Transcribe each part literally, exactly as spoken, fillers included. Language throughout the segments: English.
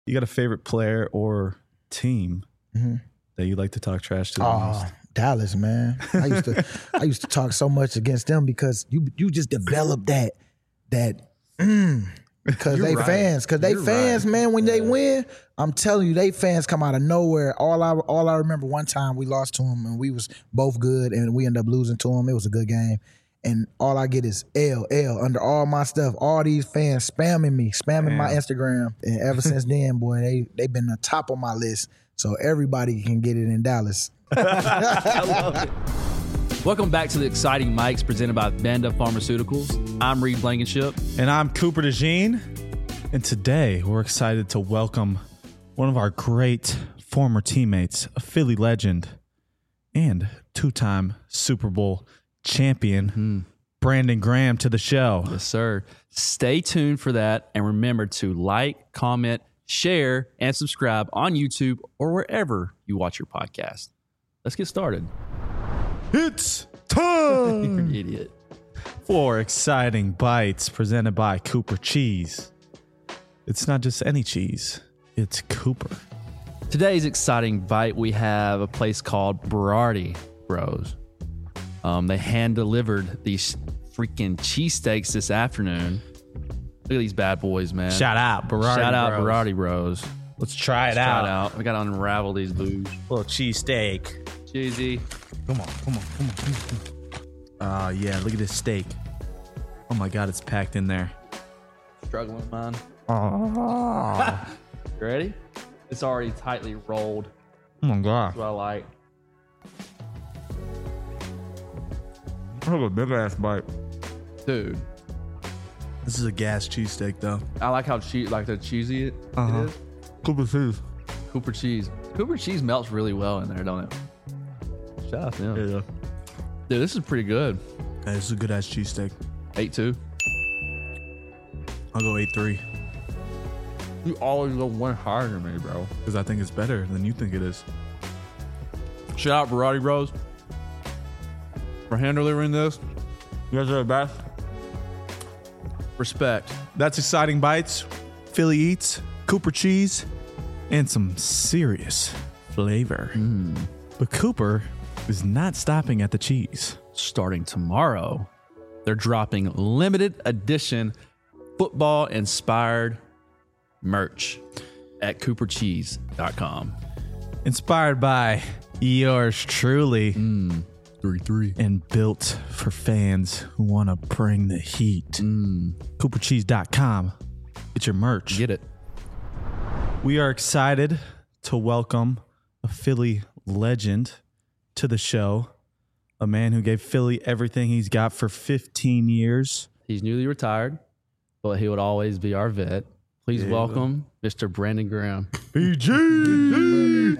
You got a favorite player or team mm-hmm. that you like to talk trash to? Oh, Dallas, man. I used to I used to talk so much against them because you you just develop that that mm, because they right. fans, because they You're fans, right. man. When yeah. they win, I'm telling you, they fans come out of nowhere. All I all I remember one time we lost to them and we was both good and we ended up losing to them. It was a good game. And all I get is L, L under all my stuff. All these fans spamming me, spamming Damn. my Instagram. And ever since then, boy, they they been the top of my list. So everybody can get it in Dallas. I love it. Welcome back to the Exciting Mics presented by Vanda Pharmaceuticals. I'm Reed Blankenship. And I'm Cooper DeJean. And today we're excited to welcome one of our great former teammates, a Philly legend, and two-time Super Bowl champion, Mm-hmm. Brandon Graham, to the show. Yes, sir. Stay tuned for that. And remember to like, comment, share, and subscribe on YouTube or wherever you watch your podcast. Let's get started. It's You're time an idiot. for Exciting Bites presented by Cooper Cheese. It's not just any cheese, it's Cooper. Today's exciting bite, we have a place called Berardi Bros. Um, they hand delivered these freaking cheesesteaks this afternoon. Look at these bad boys, man. Shout out, Berardi Shout out Bros. Berardi Bros. Let's try it Let's out. try it out. We got to unravel these booze. Little cheesesteak. Cheesy. Come on, come on, come on. Come on. Uh, yeah, look at this steak. Oh my God, it's packed in there. Struggling, man. Oh, You ready? It's already tightly rolled. oh my God. That's what I like. I have a big ass bite. Dude, This is a gas cheesesteak, though. I like how cheese, like the cheesy it, Uh-huh. it is. Cooper cheese. Cooper cheese. Cooper cheese melts really well in there, don't it? Shout out to him. Yeah. Dude, this is pretty good. Hey, this is a good ass cheesesteak. eight two. I'll go eight three You always go one higher than me, bro. because I think it's better than you think it is. Shout out Berardi Bros for hand delivering this. You guys are the best. Respect. That's Exciting Bites, Philly Eats, Cooper Cheese, and some serious flavor. But Cooper is not stopping at the cheese. Starting tomorrow, they're dropping limited edition football inspired merch at cooper cheese dot com. Inspired by yours truly three three. and built for fans who want to bring the heat. cooper cheese dot com. Get your merch. Get it. We are excited to welcome a Philly legend to the show, a man who gave Philly everything he's got for fifteen years. He's newly retired, but he would always be our vet. Please Yeah, welcome Mister Brandon Graham. B G.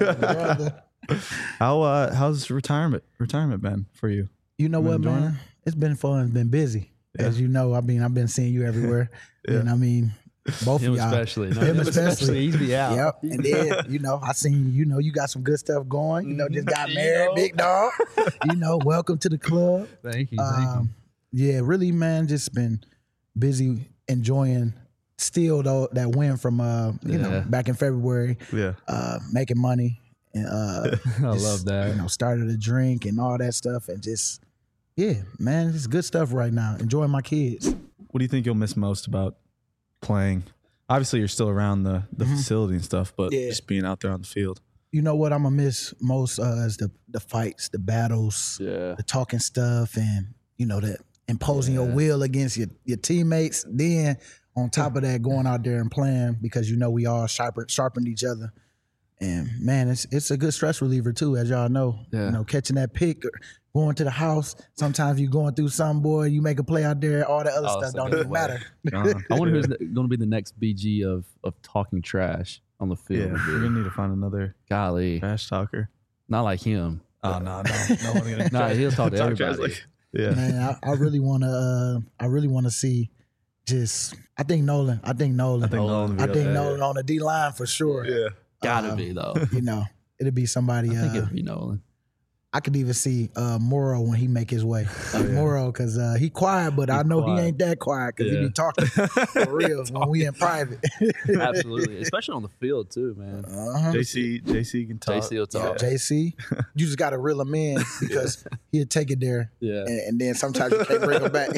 How uh how's retirement retirement been for you? You know You what, enjoying man? It's been fun. It's been busy. Yeah. As you know, I mean, I've been seeing you everywhere. Yeah. And I mean, both Him of y'all. especially. No, Him him especially. especially. He's be out. Yep. And then, you know, I seen, you know, you got some good stuff going. You know, just got You married, know. big dog. You know, welcome to the club. Thank you. Um, yeah, really, man, just been busy enjoying still though that win from uh, you know, Yeah. back in February, Yeah. uh, making money and uh I just, love that. You know, started a drink and all that stuff and just yeah, man, it's good stuff right now. Enjoying my kids. What do you think you'll miss most about playing? Obviously, you're still around the, the facility and stuff, but Yeah. just being out there on the field. You know what I'm gonna miss most uh, is the the fights, the battles, Yeah. the talking stuff, and you know that imposing your will against your your teammates. Then on top of that, going out there and playing because you know we all sharpened sharpened each other. And man, it's it's a good stress reliever too, as y'all know. Yeah. You know, catching that pick or going to the house. Sometimes you going through some boy, you make a play out there, all the other Oh, stuff that's a don't good even way. matter. Uh, I wonder who's going to be the next B G of of talking trash on the yeah, field. we're dude. gonna need to find another Golly, trash talker. not like him. Oh no, no, no one gonna Nah, he'll talk to talk trash everybody. like- yeah, Man, I, I really want to. Uh, I really want to see. Just, I think Nolan. I think Nolan. I think Nolan. I would be think up there. Nolan on the D line for sure. Yeah, Gotta Uh, be though. You know, it'll be somebody. I think Uh, it'd be Nolan. I could even see uh, Morrow when he make his way. Like yeah. Morrow, because uh, he quiet, but he I know quiet. he ain't that quiet because yeah. he be talking for real when we in private. Absolutely, especially on the field too, man. Uh-huh. J C, J C can talk. J C will talk. Yeah, J C, you just got to reel him in because yeah. he'll take it there, yeah. and, and then sometimes you can't bring him back.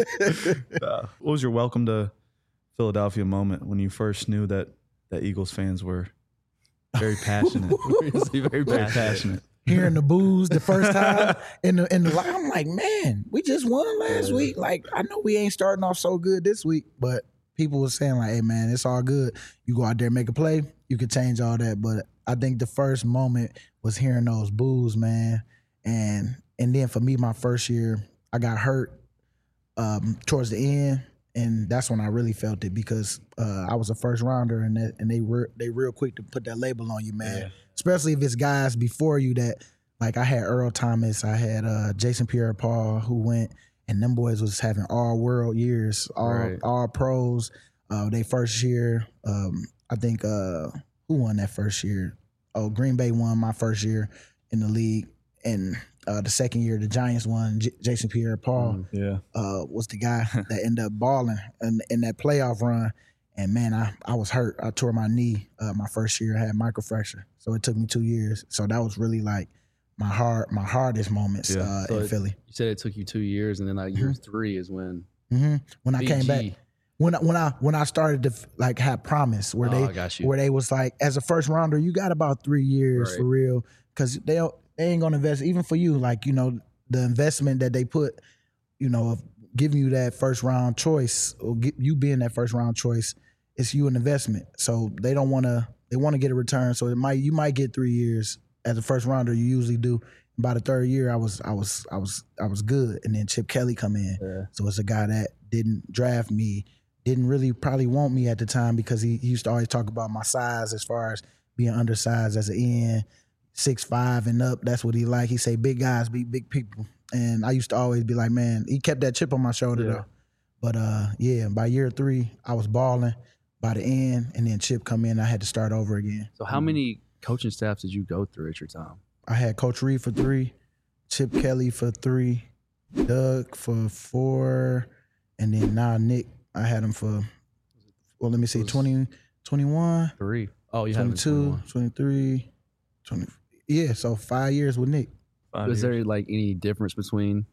uh, what was your welcome to Philadelphia moment when you first knew that that Eagles fans were very passionate? very, very passionate. Hearing the boos the first time in the in the I'm like, man, we just won last week. Like, I know we ain't starting off so good this week, but people were saying like, hey man, it's all good. You go out there and make a play, you can change all that. But I think the first moment was hearing those boos, man. And and then for me, my first year, I got hurt um, towards the end, and that's when I really felt it because uh, I was a first rounder, and that, and they were they real quick to put that label on you, man. Yeah. Especially if it's guys before you that, like I had Earl Thomas, I had uh, Jason Pierre-Paul who went, and them boys was having all world years, all right. all pros. Uh, they first year, um, I think uh, who won that first year? Oh, Green Bay won my first year in the league, and uh, the second year the Giants won. J- Jason Pierre-Paul mm, yeah. uh, was the guy that ended up balling in, in that playoff run. And man, I, I was hurt. I tore my knee uh, my first year. I had microfracture, so it took me two years. So that was really like my hard, my hardest moments yeah. uh, so in it, Philly. You said it took you two years, and then like year mm-hmm. three is when mm-hmm. when I B G. Came back. When I, when I when I started to like have promise, where oh, they where they was like, as a first rounder, you got about three years right. for real, because they don't, they ain't gonna invest even for you. Like, you know, the investment that they put, you know, of giving you that first round choice or get, you being that first round choice. It's you an investment, so they don't want to. They want to get a return, so it might you might get three years as a first rounder. You usually do. By the third year, I was I was I was I was good, and then Chip Kelly come in. Yeah. So it's a guy that didn't draft me, didn't really probably want me at the time because he, he used to always talk about my size as far as being undersized as an end, six five and up. That's what he like. He say big guys beat big people, and I used to always be like, man, he kept that chip on my shoulder yeah. though. But uh, yeah, by year three, I was balling. By the end, and then Chip come in, I had to start over again. So how many coaching staffs did you go through at your time? I had Coach Reed for three, Chip Kelly for three, Doug for four, and then now Nick, I had him for, well, let me see, twenty, twenty-one. Three. Oh, you had him twenty-two, twenty-three, twenty. Yeah, so five years with Nick. Five Was years. There like any difference between,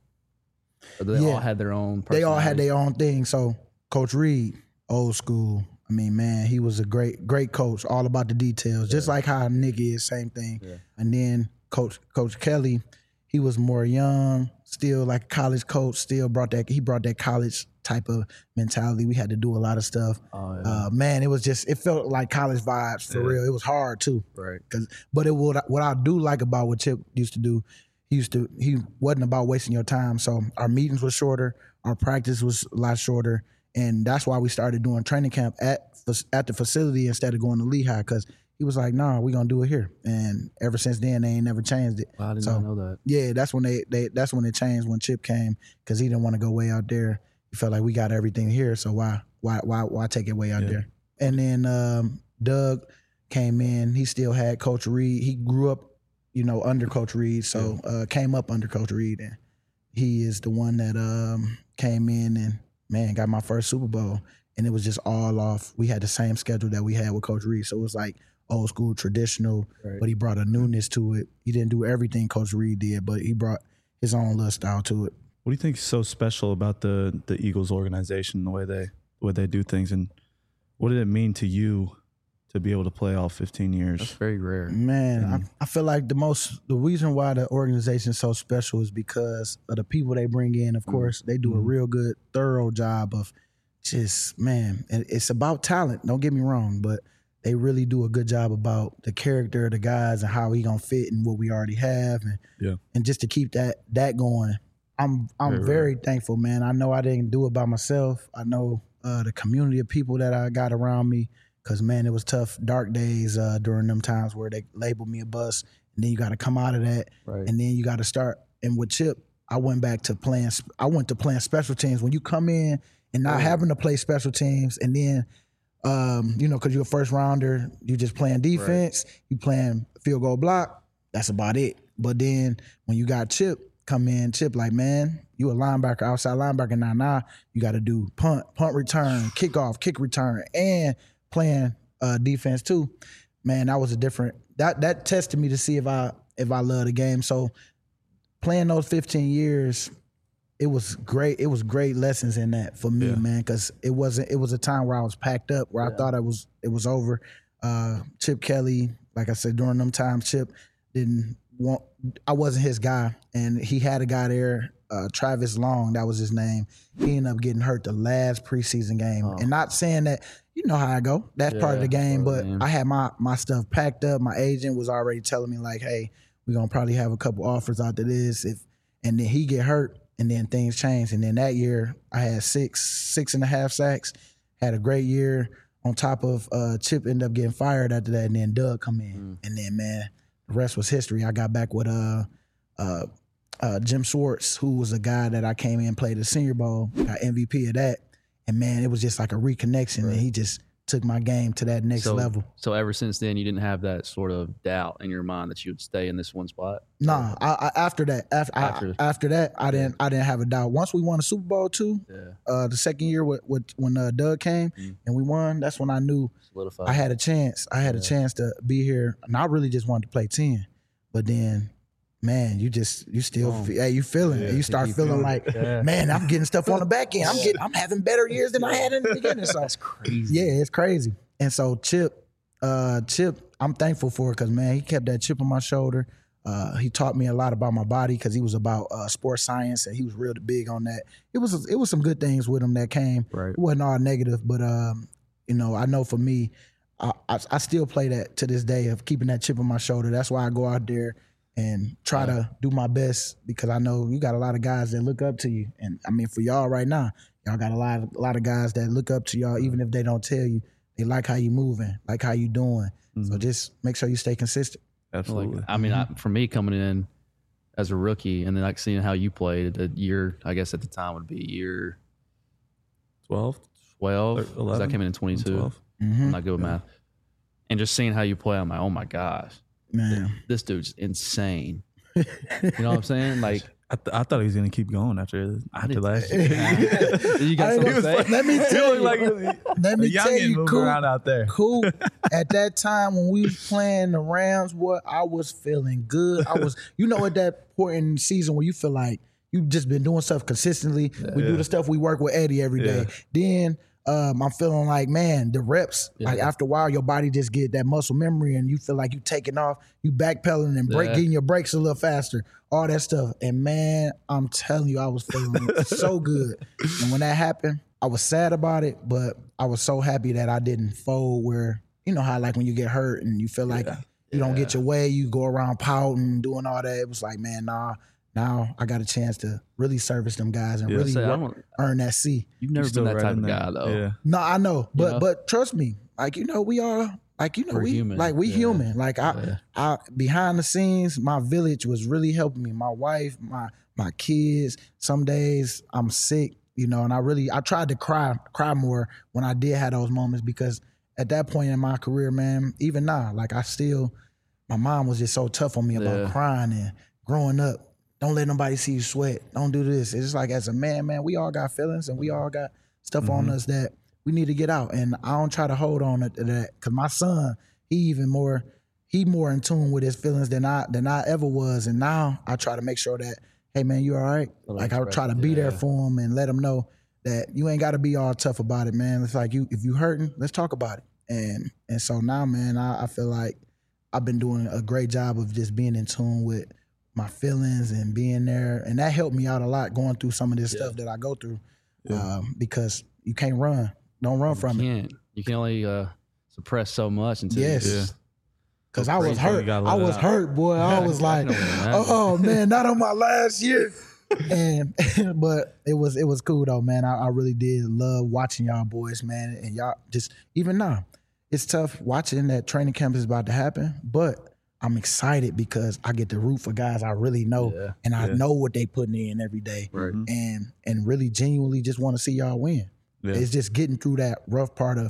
or they yeah. all had their own They all had their own thing. So Coach Reed, old school, I mean, man, he was a great, great coach, all about the details, yeah. just like how Nick is, same thing. Yeah. And then Coach Coach Kelly, he was more young, still like a college coach, still brought that, he brought that college type of mentality. We had to do a lot of stuff. Oh, yeah. uh, man, it was just, it felt like college vibes for yeah. real. It was hard too. Right. Cause, but it what, what I do like about what Chip used to do, he used to, he wasn't about wasting your time. So our meetings were shorter, our practice was a lot shorter. And that's why we started doing training camp at at the facility instead of going to Lehigh, because he was like, "Nah, we're gonna do it here." And ever since then, they ain't never changed it. Well, I did so, not know that. Yeah, that's when they, they that's when it changed when Chip came, because he didn't want to go way out there. He felt like we got everything here, so why why why why take it way out yeah. there? And then um, Doug came in. He still had Coach Reed. He grew up, you know, under Coach Reed, so yeah. uh, came up under Coach Reed, and he is the one that um, came in and. Man, got my first Super Bowl, and it was just all off. We had the same schedule that we had with Coach Reed, so it was like old school, traditional, right. but he brought a newness to it. He didn't do everything Coach Reed did, but he brought his own little style to it. What do you think is so special about the the Eagles organization, the way they the way they do things, and what did it mean to you to be able to play all fifteen years? That's very rare. Man, I, I feel like the most the reason why the organization is so special is because of the people they bring in. Of course, mm-hmm. they do a real good, thorough job of just, man, and it's about talent. Don't get me wrong, but they really do a good job about the character of the guys and how he gonna fit in what we already have, and yeah. and just to keep that that going. I'm I'm very, very thankful, man. I know I didn't do it by myself. I know uh, the community of people that I got around me. Because, man, it was tough, dark days uh, during them times where they labeled me a bust. And then you got to come out of that. Right. And then you got to start. And with Chip, I went back to playing – I went to playing special teams. When you come in and not right. having to play special teams, and then, um, you know, because you're a first rounder, you just playing defense, right. you playing field goal block, that's about it. But then when you got Chip come in, Chip like, man, you a linebacker, outside linebacker now. Now you got to do punt, punt return, kickoff, kick return, and playing uh, defense too. Man, that was a different. That that tested me to see if I if I love the game. So playing those fifteen years, it was great. It was great lessons in that for me, yeah. man, because it wasn't. It was a time where I was packed up, where yeah. I thought it was it was over. Uh, Chip Kelly, like I said, during them times, Chip didn't want. I wasn't his guy, and he had a guy there, uh, Travis Long, that was his name. He ended up getting hurt the last preseason game, oh. and not saying that. You know how I go. That's yeah, part of the game, but the I had my my stuff packed up. My agent was already telling me like, "Hey, we're gonna probably have a couple offers after this." If and then he get hurt, and then things change. And then that year, I had six six and a half sacks. Had a great year. On top of uh, Chip ended up getting fired after that, and then Doug come in, mm. and then man, the rest was history. I got back with uh uh uh Jim Schwartz, who was a guy that I came in and played the Senior Bowl, got M V P of that. And man, it was just like a reconnection, right. and he just took my game to that next so, level. So ever since then, you didn't have that sort of doubt in your mind that you would stay in this one spot? Nah, I, I, after that, after after, I, after that, I didn't I didn't have a doubt. Once we won the Super Bowl too, yeah. uh, the second year with, with when uh, Doug came mm. and we won, that's when I knew Solidified. I had a chance. I had yeah. a chance to be here, and I really just wanted to play ten. But then. Man, you just you still oh. feel, hey, you feeling yeah, it. You start feeling, feeling like, yeah. man, I'm getting stuff on the back end. I'm getting I'm having better years than I had in the beginning. So that's crazy. Yeah, it's crazy. And so Chip, uh, Chip, I'm thankful for it because man, he kept that chip on my shoulder. Uh, he taught me a lot about my body because he was about uh, sports science and he was real big on that. It was it was some good things with him that came. Right. It wasn't all negative, but um, you know, I know for me, I, I I still play that to this day of keeping that chip on my shoulder. That's why I go out there and try yeah. to do my best because I know you got a lot of guys that look up to you. And I mean, for y'all right now, y'all got a lot of, a lot of guys that look up to y'all, even if they don't tell you. They like how you moving, like how you doing. Mm-hmm. So just make sure you stay consistent. Absolutely. Like, I mean, mm-hmm. I, for me coming in as a rookie and then like seeing how you played a year, I guess at the time would be year twelve, twelve, because I came in in twenty-two. Mm-hmm. I'm not good with yeah. math. And just seeing how you play, I'm like, oh my gosh. Man, this dude's insane. You know what I'm saying? Like, I, th- I thought he was gonna keep going after after last year. You got something to say? Let me tell you. Like let me tell you, cool, around out there. Cool. At that time when we was playing the Rams, what I was feeling good. I was, you know, at that point in the season where you feel like you've just been doing stuff consistently. Yeah, we yeah. do the stuff we work with Eddie every day. Yeah. Then. Um, I'm feeling like, man, the reps, yeah. like after a while, your body just get that muscle memory and you feel like you taking off, you backpedaling and break, yeah. getting your brakes a little faster, all that stuff. And man, I'm telling you, I was feeling so good. And when that happened, I was sad about it, but I was so happy that I didn't fold where, you know how like when you get hurt and you feel like yeah. you don't yeah. get your way, you go around pouting, doing all that. It was like, man, nah. Now I got a chance to really service them guys and yeah, really say, work, earn that C. You've never been that right type of guy, though. Yeah. No, I know, but you know? but trust me, like you know, we are like you know We're we human. like we yeah. human. Like I, yeah. I behind the scenes, my village was really helping me. My wife, my my kids. Some days I'm sick, you know, and I really I tried to cry cry more when I did have those moments because at that point in my career, man, even now, like I still, my mom was just so tough on me about yeah. crying and growing up. Don't let nobody see you sweat. Don't do this. It's just like as a man, man, we all got feelings and we all got stuff mm-hmm. on us that we need to get out. And I don't try to hold on to that because my son, he even more, he more in tune with his feelings than I than I ever was. And now I try to make sure that, hey man, you all right? Well, like I right. try to be yeah. there for him and let him know that you ain't got to be all tough about it, man. It's like you if you hurting, let's talk about it. And and so now, man, I, I feel like I've been doing a great job of just being in tune with my feelings and being there. And that helped me out a lot going through some of this yeah. stuff that I go through yeah. um, because you can't run. Don't run you from can't. it. You can only uh, suppress so much until yes. you Because I was hurt. I was hurt, boy. I was like, oh, man, not on my last year. and But it was it was cool, though, man. I, I really did love watching y'all boys, man. And y'all just, even now, it's tough watching that training camp is about to happen, but I'm excited because I get to root for guys I really know yeah, and I yeah. know what they putting in every day right. and and really genuinely just want to see y'all win. Yeah. It's just getting through that rough part of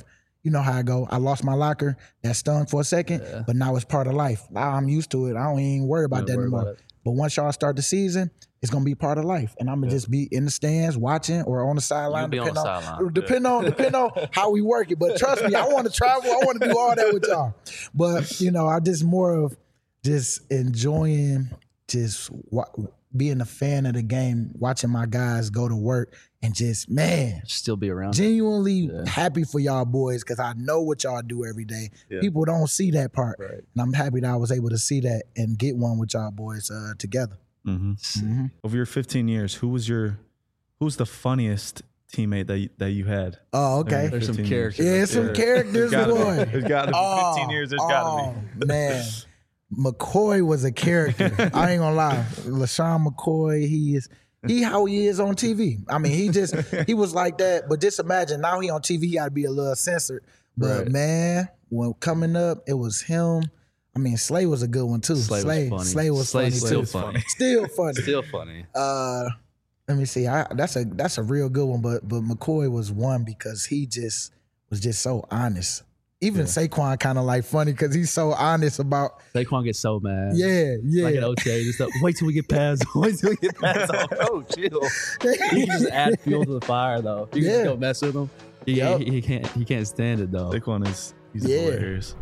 you know how I go. I lost my locker. That stung for a second, Yeah. but now it's part of life. Now I'm used to it. I don't even worry about Don't that worry anymore. about it. But once y'all start the season, it's gonna be part of life, and I'm gonna just be in the stands watching or on the sideline, You'll be on depending the on, sideline. depending on depending on how we work it. But trust me, I want to travel. I want to do all that with y'all. But you know, I just more of just enjoying just wa- being a fan of the game, watching my guys go to work, and just man, Still be around. genuinely Yeah. happy for y'all boys because I know what y'all do every day. Yeah. People don't see that part, Right. and I'm happy that I was able to see that and get one with y'all boys uh, together. Mm-hmm. Mhm. Over your fifteen years, who was your who was the funniest teammate that you, that you had? Oh, okay. There's some fifteen years. characters. Yeah, up some there. characters, There's gotta boy. be. There's gotta be. Oh, fifteen years, there's gotta oh, man. McCoy was a character. I ain't gonna lie. LaShawn McCoy, he is he how he is on T V. I mean, he just he was like that. But just imagine now he on T V, he gotta be a little censored. But Right. man, when coming up, it was him. I mean, Slay was a good one too. Slay was Slay, funny. Slay was Slay's funny still too. funny. Still funny. Still funny. Uh, let me see. I, that's a that's a real good one. But but McCoy was one because he just was just so honest. Even Saquon kind of like funny because he's so honest about. Saquon gets so mad. Yeah, yeah. Like an O T A and stuff. Wait till we get past. Wait till we get past. Oh, oh chill. You can just add fuel to the fire, though. You can Yeah. just go mess with him. He, Yep. he, he can't. He can't stand it though. Saquon is he's Yeah. hilarious.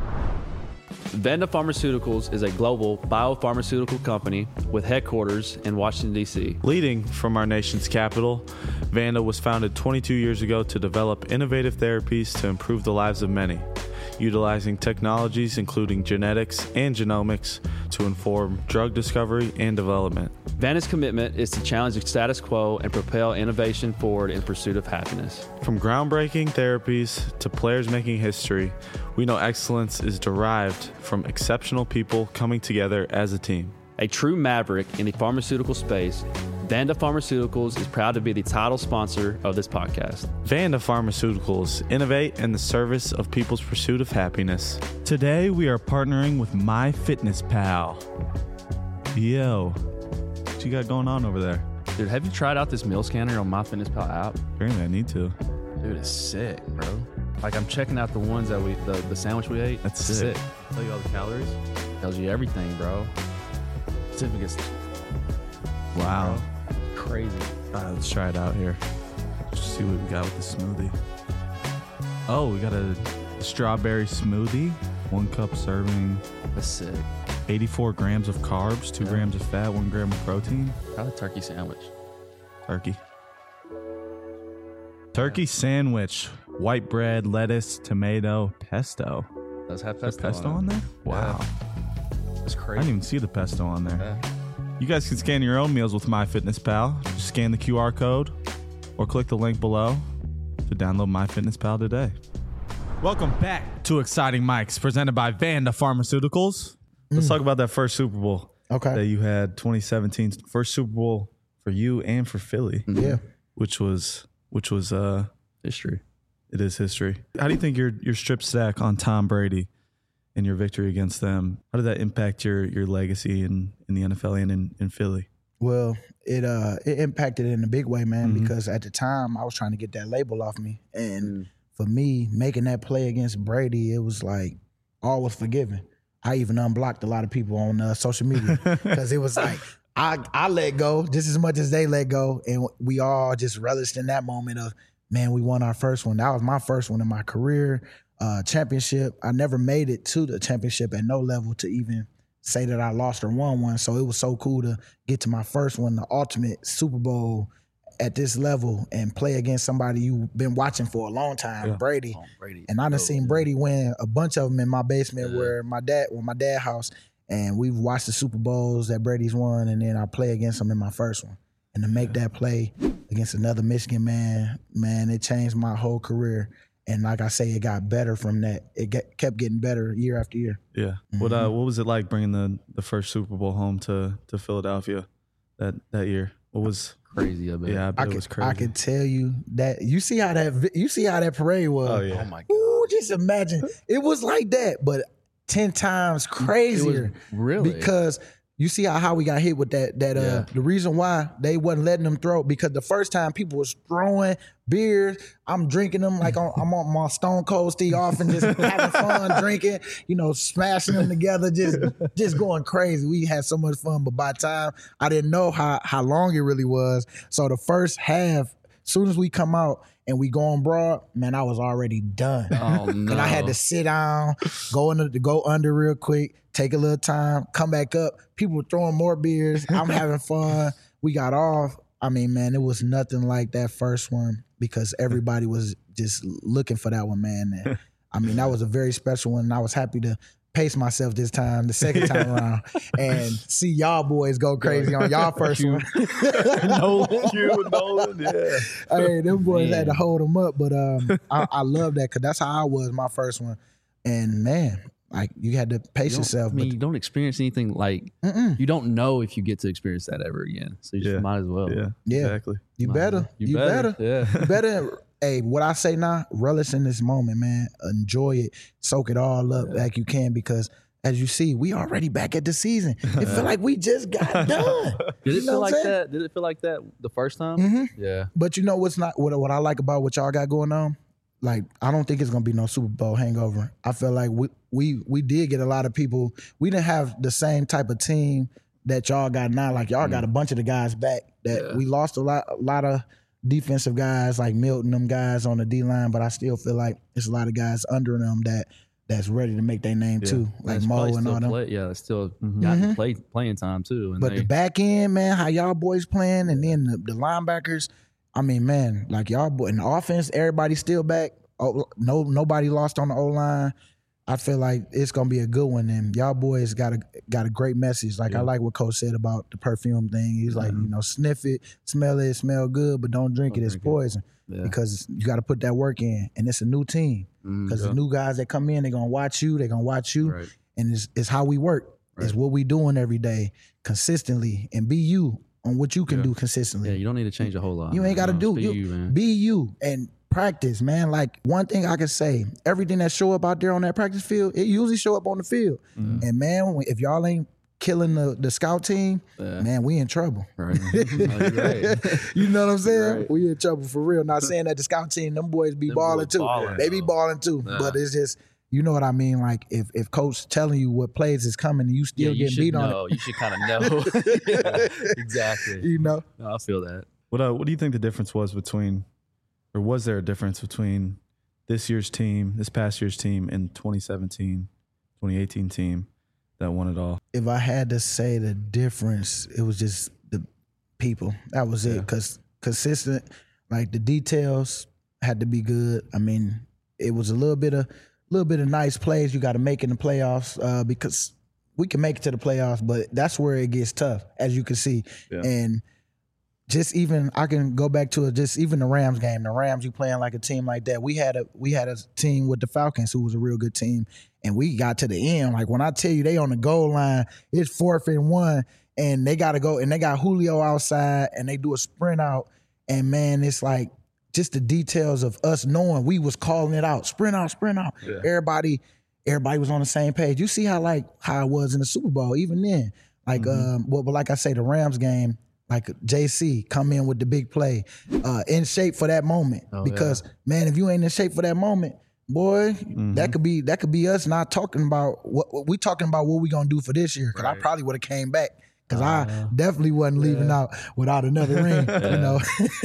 Vanda Pharmaceuticals is a global biopharmaceutical company with headquarters in Washington, D C. Leading from our nation's capital, Vanda was founded twenty-two years ago to develop innovative therapies to improve the lives of many, utilizing technologies including genetics and genomics to inform drug discovery and development. Vanda's commitment is to challenge the status quo and propel innovation forward in pursuit of happiness. From groundbreaking therapies to players making history, we know excellence is derived from exceptional people coming together as a team. A true maverick in the pharmaceutical space, Vanda Pharmaceuticals is proud to be the title sponsor of this podcast. Vanda Pharmaceuticals innovate in the service of people's pursuit of happiness. Today, we are partnering with MyFitnessPal. Yo, what you got going on over there? Dude, have you tried out this meal scanner on MyFitnessPal app? Apparently, I need to. Dude, it's sick, bro. Like, I'm checking out the ones that we, the, the sandwich we ate. That's It's sick. Tell you all the calories. Tells you everything, bro. Certificates. Wow. Crazy. All right, let's try it out here. Just see what we got with the smoothie. Oh, we got a strawberry smoothie, one cup serving, That's sick. eighty-four grams of carbs, two Yeah. grams of fat, one gram of protein. Try the turkey sandwich. Turkey. Turkey sandwich, white bread, lettuce, tomato, pesto. Does have There's pesto, pesto on there? Wow. That's I crazy. didn't even see the pesto on there. Yeah. You guys can scan your own meals with MyFitnessPal. Just scan the Q R code or click the link below to download MyFitnessPal today. Welcome back to Exciting Mics, presented by Vanda Pharmaceuticals. Let's talk about that first Super Bowl Okay. that you had, twenty seventeen, first Super Bowl for you and for Philly, Yeah. which was which was uh, History. it is history. How do you think your your strip stack on Tom Brady and your victory against them, how did that impact your your legacy in, in the N F L and in, in Philly? Well, it uh it impacted in a big way, man, Mhm. because at the time I was trying to get that label off me. And for me, making that play against Brady, it was like all was forgiven. I even unblocked a lot of people on uh, social media because it was like I I let go just as much as they let go, and we all just relished in that moment of, man, we won our first one. That was my first one in my career, uh, championship. I never made it to the championship at no level to even say that I lost or won one. So it was so cool to get to my first one, the ultimate Super Bowl at this level, and play against somebody you've been watching for a long time, Yeah. Brady. Oh, Brady. And I done Oh, seen yeah. Brady win a bunch of them in my basement Yeah. where my dad, well, my dad house, and we've watched the Super Bowls that Brady's won, and then I play against him in my first one. And to make that play against another Michigan man, man, it changed my whole career. And like I say, it got better from that. It get, kept getting better year after year. Yeah. What uh what was it like bringing the, the first Super Bowl home to, to Philadelphia that, that year? What was Crazy, I bet. yeah, I bet I it was could, crazy. I could tell you that you see how that vi- you see how that parade was. Oh yeah. Oh, my God. Ooh, just imagine it was like that, but ten times It was crazier. really. Because You see how, how we got hit with that, that uh, Yeah. the reason why they wasn't letting them throw, because the first time people was throwing beers, I'm drinking them like on, I'm on my Stone Cold Steve Austin, just having fun drinking, you know, smashing them together, just just going crazy. We had so much fun, but by the time I didn't know how, how long it really was. So the first half, soon as we come out and we go on broad, man, I was already done. Oh no! And I had to sit down, go under, go under real quick, take a little time, come back up. People were throwing more beers. I'm having fun. We got off. I mean, man, it was nothing like that first one because everybody was just looking for that one, man. And, I mean, that was a very special one. And I was happy to pace myself this time, the second time around, and see y'all boys go crazy on y'all first one. Nolan, you, Nolan, yeah. Hey, them boys Man. had to hold them up, but um, I, I love that because that's how I was my first one. And man, like you had to pace You don't- yourself. I mean, but you don't experience anything like mm-mm, you don't know if you get to experience that ever again. So you just Yeah. might as well. Yeah, Yeah. exactly. you Might as better, well. you, better, Yeah. you better. Hey, what I say now, relish in this moment, man. Enjoy it, soak it all up like you can, because as you see, we already back at the season. It feel like we just got done. Did You it know feel what like I'm saying? that? Did it feel like that the first time? Mhm. Yeah. But you know what's not what what I like about what y'all got going on? Like, I don't think it's gonna be no Super Bowl hangover. I feel like we we we did get a lot of people. We didn't have the same type of team that y'all got now. Like y'all got a bunch of the guys back that Yeah. we lost a lot a lot of defensive guys like Milton, them guys on the D line, but I still feel like there's a lot of guys under them that that's ready to make their name Yeah. too, like That's Mo probably and still all them. play, yeah, it's still Mhm. got Mhm. play playing time too. And But they, the back end, man, how y'all boys playing, and then the, the linebackers. I mean, man, like y'all boy in the offense, everybody's still back. Oh, no, nobody lost on the O line. I feel like it's gonna be a good one, and y'all boys got a got a great message. Like I Yeah. like what Coach said about the perfume thing. He's like, you know, sniff it, smell it, smell good, but don't drink Don't it. It's drink it. poison yeah. because you got to put that work in, and it's a new team. Mm, Because Yeah. the new guys that come in, they're gonna watch you. They're gonna watch you, right. and it's, it's how we work. It's Right. what we doing every day consistently, and be you on what you can Yeah. do consistently. Yeah, you don't need to change a whole lot. You ain't man. got to No, do just you, be you, man. be you and practice, man. Like one thing I can say, everything that show up out there on that practice field, it usually show up on the field. Mhm. And man, if y'all ain't killing the, the scout team, Yeah. man, we in trouble. Right. No, you're right. You know what I'm saying? Right. We in trouble for real. Not saying that the scout team, them boys be Them balling boys too. balling, They be though. balling too. Yeah. But it's just, you know what I mean? Like if if coach telling you what plays is coming and you Yeah, still you getting should beat on know. You should kind of know. it. Exactly. You know? No, I feel that. What uh, what do you think the difference was between, or was there a difference between this year's team, this past year's team, and twenty seventeen, twenty eighteen team that won it all? If I had to say the difference, it was just the people. That was it. Yeah. Because consistent, like the details had to be good. I mean, it was a little bit of little bit of nice plays you got to make in the playoffs uh, because we can make it to the playoffs, but that's where it gets tough, as you can see. Yeah. And just even I can go back to it, just even the Rams game. The Rams, you playing like a team like that. We had a we had a team with the Falcons who was a real good team, and we got to the end. Like when I tell you they on the goal line, it's fourth and one, and they got to go, and they got Julio outside, and they do a sprint out, and man, it's like just the details of us knowing we was calling it out, sprint out, sprint out. Yeah. Everybody, everybody was on the same page. You see how like how it was in the Super Bowl, even then. Like, Mhm. um, well, but like I say, the Rams game. Like J C come in with the big play, uh, in shape for that moment. Oh, because man, if you ain't in shape for that moment, boy, Mhm. that could be that could be us not talking about what, what we talking about. What we gonna do for this year? Because I Right. probably would have came back. Because Uh, I definitely wasn't leaving out without another ring, you know.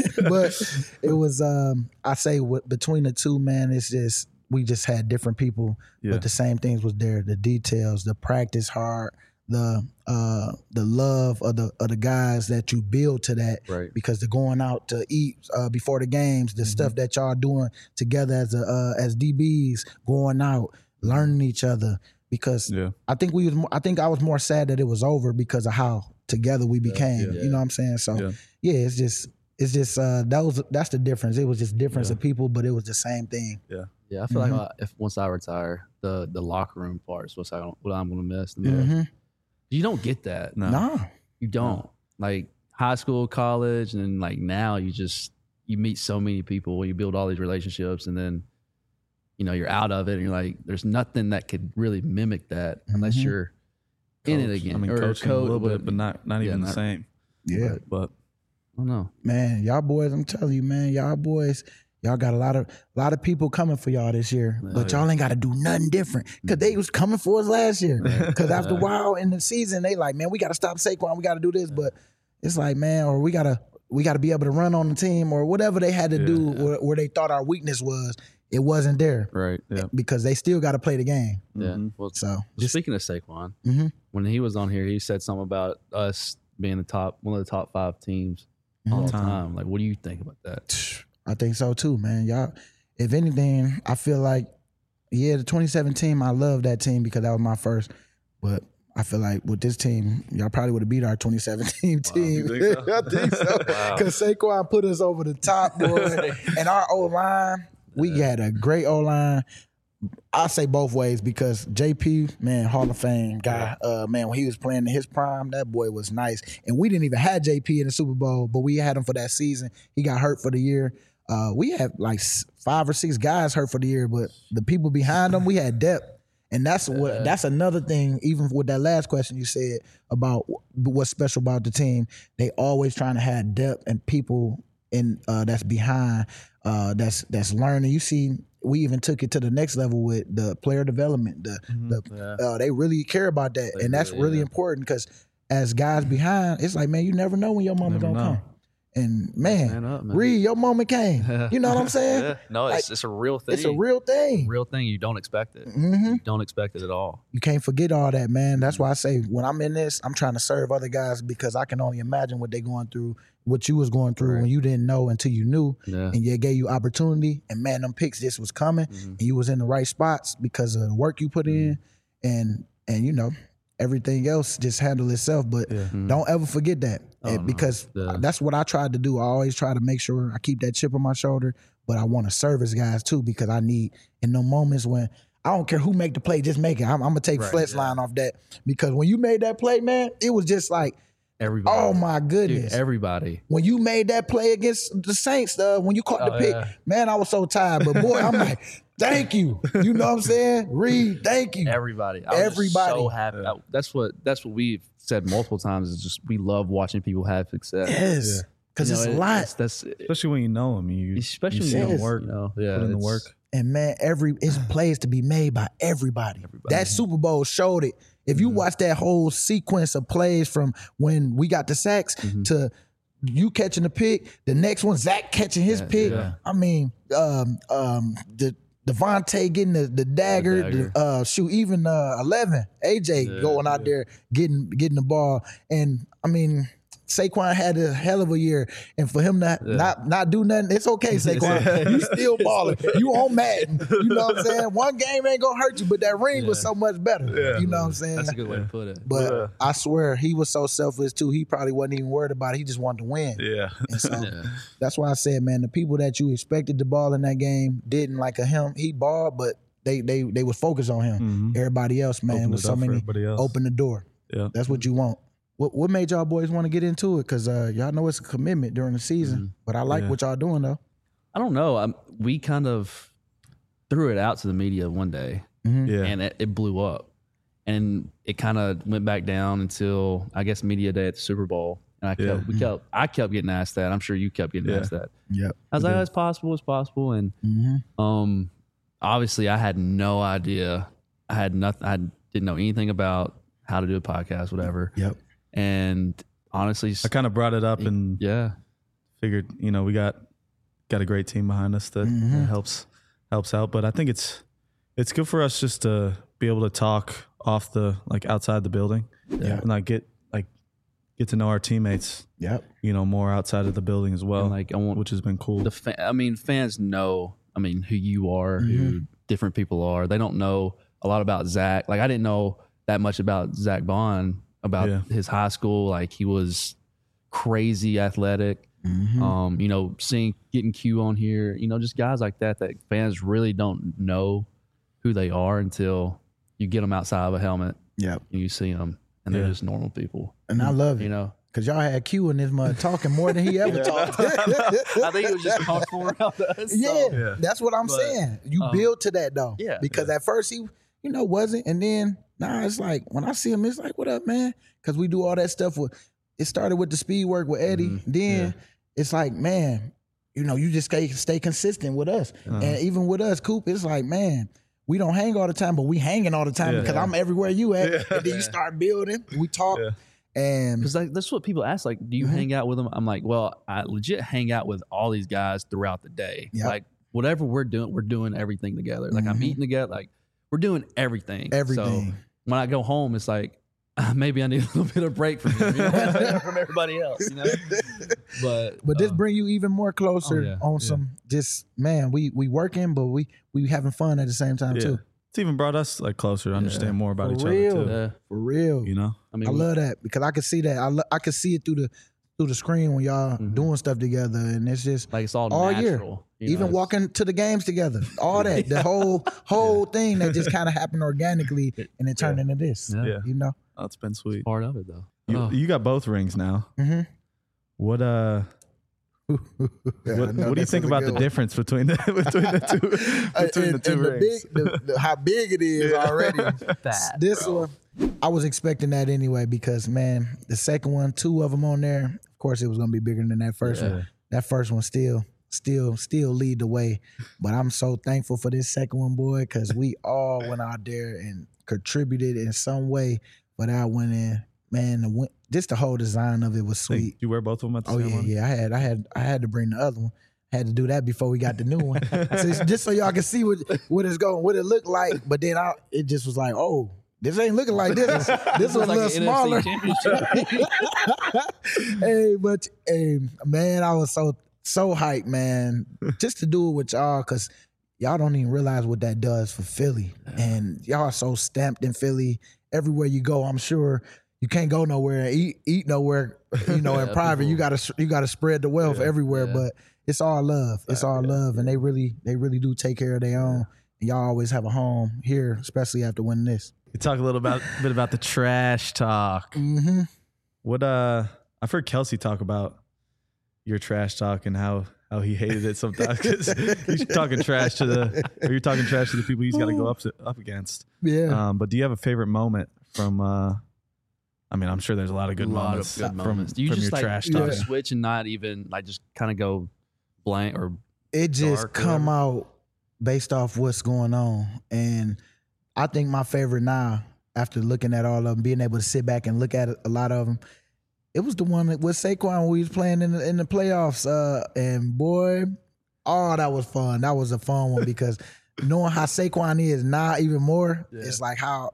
But it was, um, I say, w- between the two, man, it's just we just had different people, Yeah. but the same things was there. The details, the practice hard, the uh, the love of the of the guys that you build to that. Right. Because they're going out to eat uh, before the games, the stuff that y'all doing together as a uh, as D Bs, going out, learning each other. Because Yeah. I think we was, mo- I think I was more sad that it was over because of how together we became. yeah. You know what I'm saying? So Yeah. yeah, it's just it's just uh, that was that's the difference. It was just difference Yeah. of people, but it was the same thing. Yeah, I feel Mhm. like uh, if once I retire, the the locker room part is what I what I'm gonna miss the most. Mm-hmm. You don't get that. No. Nah. You don't. Like high school, college, and then like now you just you meet so many people, you build all these relationships, and then you know you're out of it, and you're like, there's nothing that could really mimic that unless Mhm. you're in it coach. again. I mean, or coaching code, a little but- bit, but not not yeah, even not- the same. Yeah. But, but I don't know. Man, y'all boys, I'm telling you, man, y'all boys, y'all got a lot of lot of people coming for y'all this year, but y'all ain't got to do nothing different because they was coming for us last year. Because after a while in the season, they like, man, we got to stop Saquon, we got to do this, but it's like, man, or we gotta we gotta be able to run on the team or whatever they had to do where, where they thought our weakness was. It wasn't there Right. yeah, because they still got to play the game. Yeah. Mhm. Well, So just speaking of Saquon, Mhm. when he was on here, he said something about us being the top, one of the top five teams all the time. time. Like, what do you think about that? I think so too, man. Y'all, if anything, I feel like, yeah, the twenty seventeen, I love that team because that was my first. But I feel like with this team, y'all probably would have beat our twenty seventeen team. you think so? I think so. Because Saquon put us over the top, boy. And our O-line, we had a great O-line. I say both ways because J P, man, Hall of Fame guy, uh, man, when he was playing in his prime, that boy was nice. And we didn't even have J P in the Super Bowl, but we had him for that season. He got hurt for the year. Uh, we had like s- five or six guys hurt for the year, but the people behind them, we had depth. And that's what that's another thing, even with that last question you said about wh- what's special about the team. They always trying to have depth and people in uh, that's behind, uh, that's that's learning. You see, we even took it to the next level with the player development. The, the Yeah. uh, they really care about that, They and that's really, really yeah. important because as guys behind, it's like, man, you never know when your moment Never gonna know. come. And man, Man up, man. Reed, your moment came. You know what I'm saying? Yeah. No, it's, it's a real thing. It's a real thing. real thing. You don't expect it. hmm You don't expect it at all. You can't forget all that, man. That's why I say when I'm in this, I'm trying to serve other guys because I can only imagine what they're going through, what you was going through Right. when you didn't know until you knew, Yeah. and it gave you opportunity. And man, them picks just was coming, Mhm. and you was in the right spots because of the work you put in, and and you know everything else just handled itself. But Yeah. Mhm. don't ever forget that Oh, eh, no. because Yeah. that's what I tried to do. I always try to make sure I keep that chip on my shoulder, but I want to service guys too because I need in the moments when I don't care who make the play, just make it. I'm, I'm gonna take Right, flex yeah. line off that because when you made that play, man, it was just like, Everybody. oh my Dude, goodness. everybody. when you made that play against the Saints, uh, when you caught the Oh, pick, yeah. man, I was so tired. But boy, I'm like, thank you. You know what I'm saying? Reed, thank you. Everybody. I was just Everybody. so happy. I- that's what that's what we've said multiple times. Is just we love watching people have success. Yes, because You know, it's a it- lot. That's, that's especially when you know them, you especially you when see you them Yes. work, You know, yeah, put in the it's- work. And man, every it's plays to be made by everybody. Everybody. That Super Bowl showed it. If you watch that whole sequence of plays from when we got the sacks Mhm. to you catching the pick, the next one Zach catching his Yeah, pick. yeah. I mean, um, um, the Devontae getting the, the dagger, the dagger. uh, shoot, even uh, eleven A J Yeah, going out there getting getting the ball, and I mean. Saquon had a hell of a year, and for him to Yeah. not not do nothing, it's okay, Saquon. You still balling. You on Madden. You know what I'm saying? One game ain't gonna hurt you, but that ring was Yeah. so much better. You know what I'm saying? That's a good way to put it. But Yeah. I swear he was so selfless too. He probably wasn't even worried about it. He just wanted to win. Yeah. And so Yeah. that's why I said, man, the people that you expected to ball in that game didn't like a him. He balled, but they they they was focused on him. Mhm. Everybody else, man, Open with it so up for many everybody else. open the door. Yeah. That's what you want. What what made y'all boys want to get into it? Because uh, y'all know it's a commitment during the season. Mhm. But I like Yeah. what y'all doing though. I don't know. I'm, we kind of threw it out to the media one day, Yeah. and it, it blew up, and it kind of went back down until I guess media day at the Super Bowl. And I kept, Yeah. we kept, I kept getting asked that. I'm sure you kept getting Yeah. asked that. Yep. I was like, oh, it's possible, it's possible, and Mm-hmm. um, obviously I had no idea. I had nothing. I didn't know anything about how to do a podcast, whatever. Yep. And honestly, I kind of brought it up and yeah, figured, you know, we got got a great team behind us that Mhm. uh, helps helps out. But I think it's it's good for us just to be able to talk off the like outside the building, Yeah. and like get like get to know our teammates, Yep. you know, more outside of the building as well, and like I want which has been cool. the fa- I mean, fans know. I mean, who you are, who different people are. They don't know a lot about Zach. Like I didn't know that much about Zach Bond, about Yeah. his high school. Like he was crazy athletic. Mm-hmm. Um, you know, seeing getting Q on here, you know, just guys like that that fans really don't know who they are until you get them outside of a helmet Yep. and you see them, and they're Yeah. just normal people. And I love You it know, because y'all had Q in this mud talking more than he ever talked. I think it was just comfortable around us. Yeah, so- Yeah. that's what I'm But, saying. You um, build to that though. yeah. Because at first he, you know, wasn't, and then Nah, it's like when I see him, it's like, what up, man? Because we do all that stuff with. It started with the speed work with Eddie. Mm-hmm. Then Yeah. it's like, man, you know, you just stay stay consistent with us, Uh-huh. and even with us, Coop, it's like, man. We don't hang all the time, but we hanging all the time Yeah. because I'm everywhere you at. Yeah. And then you start building. We talk, Yeah. and Because like that's what people ask. Like, do you Mhm. hang out with them? I'm like, well, I legit hang out with all these guys throughout the day. Yep. Like whatever we're doing, we're doing everything together. Like I'm Mhm. eating together. Like we're doing everything. everything. So when I go home, it's like uh, maybe I need a little bit of break from you know, from everybody else. You know, but But this uh, bring you even more closer oh, yeah. on Yeah. some. Just man, we we working, but we we having fun at the same time Yeah. too. It's even brought us like closer to understand more about For each real. other too. yeah, For real, You know? I mean, I we- love that because I can see that. I lo- I can see it through the through the screen when y'all Mhm. doing stuff together, and it's just like it's all, all year. natural. you know, even it's- walking to the games together, all that, the whole whole thing that just kind of happened organically, and it turned into this. Yeah. Yeah. You know. Oh, it's been sweet. part of it though. You, Oh. you got both rings now. Mm-hmm. What uh what, what do you think about the difference between the between the two between the two rings? big, the, the, how big it is already. Bad, this bro. one, I was expecting that anyway because man, the second one, two of them on there. Of course, it was gonna be bigger than that first Yeah. one. That first one still, still, still lead the way. But I'm so thankful for this second one, boy, because we all went out there and contributed in some way for that one. And man, the, win- just the whole design of it was Hey, sweet. you wear both of them at the Oh same yeah, one? yeah. I had, I had, I had to bring the other one. I had to do that before we got the new one, so it's just so y'all can see what what it's going, what it looked like. But then I, it just was like, oh, this ain't looking like this. This was a Like little an smaller. N F C championship. Hey, but hey, man, I was so so hyped, man, just to do it with y'all, cause y'all don't even realize what that does for Philly, and y'all are so stamped in Philly. Everywhere you go, I'm sure you can't go nowhere and eat eat nowhere, you know, in Yeah, private. You people- gotta you gotta spread the wealth Yeah, everywhere, yeah. but it's all love. It's all yeah, love, and they really they really do take care of their own. And y'all always have a home here, especially after winning this. You talk a little about bit about the trash talk. Mm-hmm. What uh I've heard Kelsey talk about your trash talk and how how he hated it sometimes because he's talking trash to the or you're talking trash to the people he's got to go up to, up against. Yeah. Um, but do you have a favorite moment from? Uh, I mean, I'm sure there's a lot of good a lot moments of good from, moments. Do you from just your like trash do talk. a switch and not even like just kind of go blank or It just dark or come whatever? out based off what's going on. And I think my favorite now, after looking at all of them, being able to sit back and look at a lot of them, it was the one that with Saquon when we was playing in the, in the playoffs. Uh, and boy, oh, that was fun. That was a fun one because knowing how Saquon is now even more, Yeah. it's like how,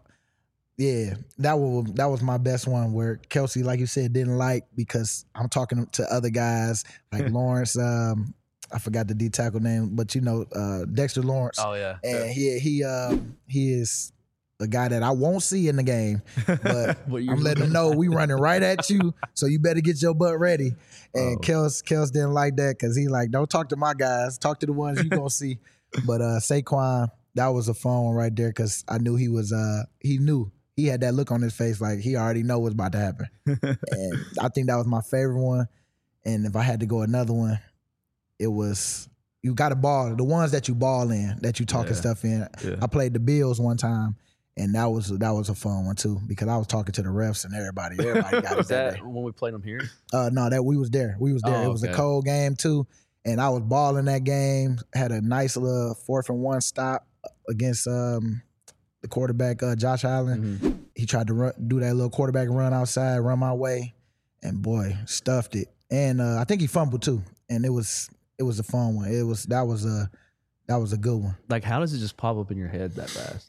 yeah, that was that was my best one where Kelsey, like you said, didn't like because I'm talking to other guys like Lawrence. Um, I forgot the D tackle name, but you know uh, Dexter Lawrence, oh yeah, and he he um, he is a guy that I won't see in the game, but What you're I'm letting him know we running right at you, so you better get your butt ready. And Oh. Kels Kels didn't like that because he like don't talk to my guys, talk to the ones you gonna see. But uh, Saquon, that was a fun one right there because I knew he was uh he knew. He had that look on his face like he already know what's about to happen. And I think that was my favorite one. And if I had to go another one, it was you got to ball. The ones that you ball in, that you talking Yeah. stuff in. Yeah. I played the Bills one time, and that was that was a fun one too because I was talking to the refs and everybody. Everybody got it was that that day. when we played them here? Uh, no, that we was there. We was there. Oh, it was okay. a cold game too, and I was balling that game. Had a nice little fourth and one stop against um, the quarterback uh, Josh Allen. Mhm. He tried to run, do that little quarterback run outside, run my way, and boy, stuffed it. And uh, I think he fumbled too. And it was it was a fun one. It was that was a that was a good one. Like, how does it just pop up in your head that fast?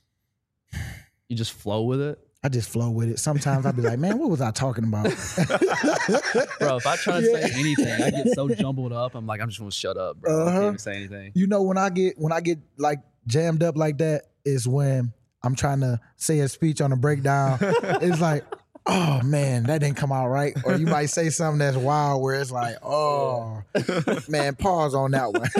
You just flow with it, I just flow with it. Sometimes I'd be like, man, what was I talking about? bro. If I try to Yeah. say anything, I get so jumbled up. I'm like, I'm just gonna shut up, bro. I Uh-huh. can't even say anything. You know, when I get when I get like jammed up like that is when I'm trying to say a speech on a breakdown. It's like, oh man, that didn't come out right. Or you might say something that's wild where it's like, oh man, pause on that one.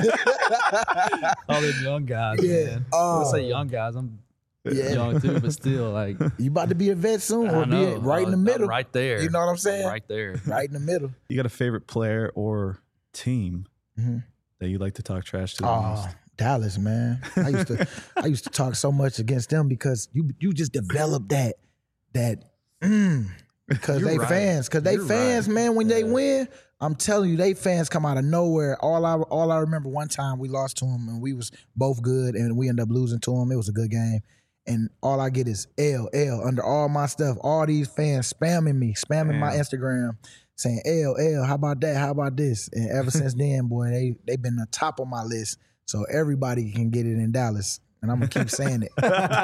All them young guys, Yeah. man. Oh. I say young guys. I'm Yeah. young too, but still, like, You about to be a vet soon or I be know. right in the I'm middle. right there. You know what I'm I'm saying? right there. Right in the middle. You got a favorite player or team Mhm. that you like to talk trash to the Oh, most? Dallas, man. I used to I used to talk so much against them because you you just develop that that mm, because You're they right. fans. Because they You're fans, right. man, when they Yeah. win, I'm telling you, they fans come out of nowhere. All I all I remember one time we lost to them and we was both good and we ended up losing to them. It was a good game. And all I get is L, L under all my stuff. All these fans spamming me, spamming my Damn. Instagram, saying L, L, how about that? How about this? And ever since then, boy, they they been the top of my list. So everybody can get it in Dallas. And I'm gonna keep saying it.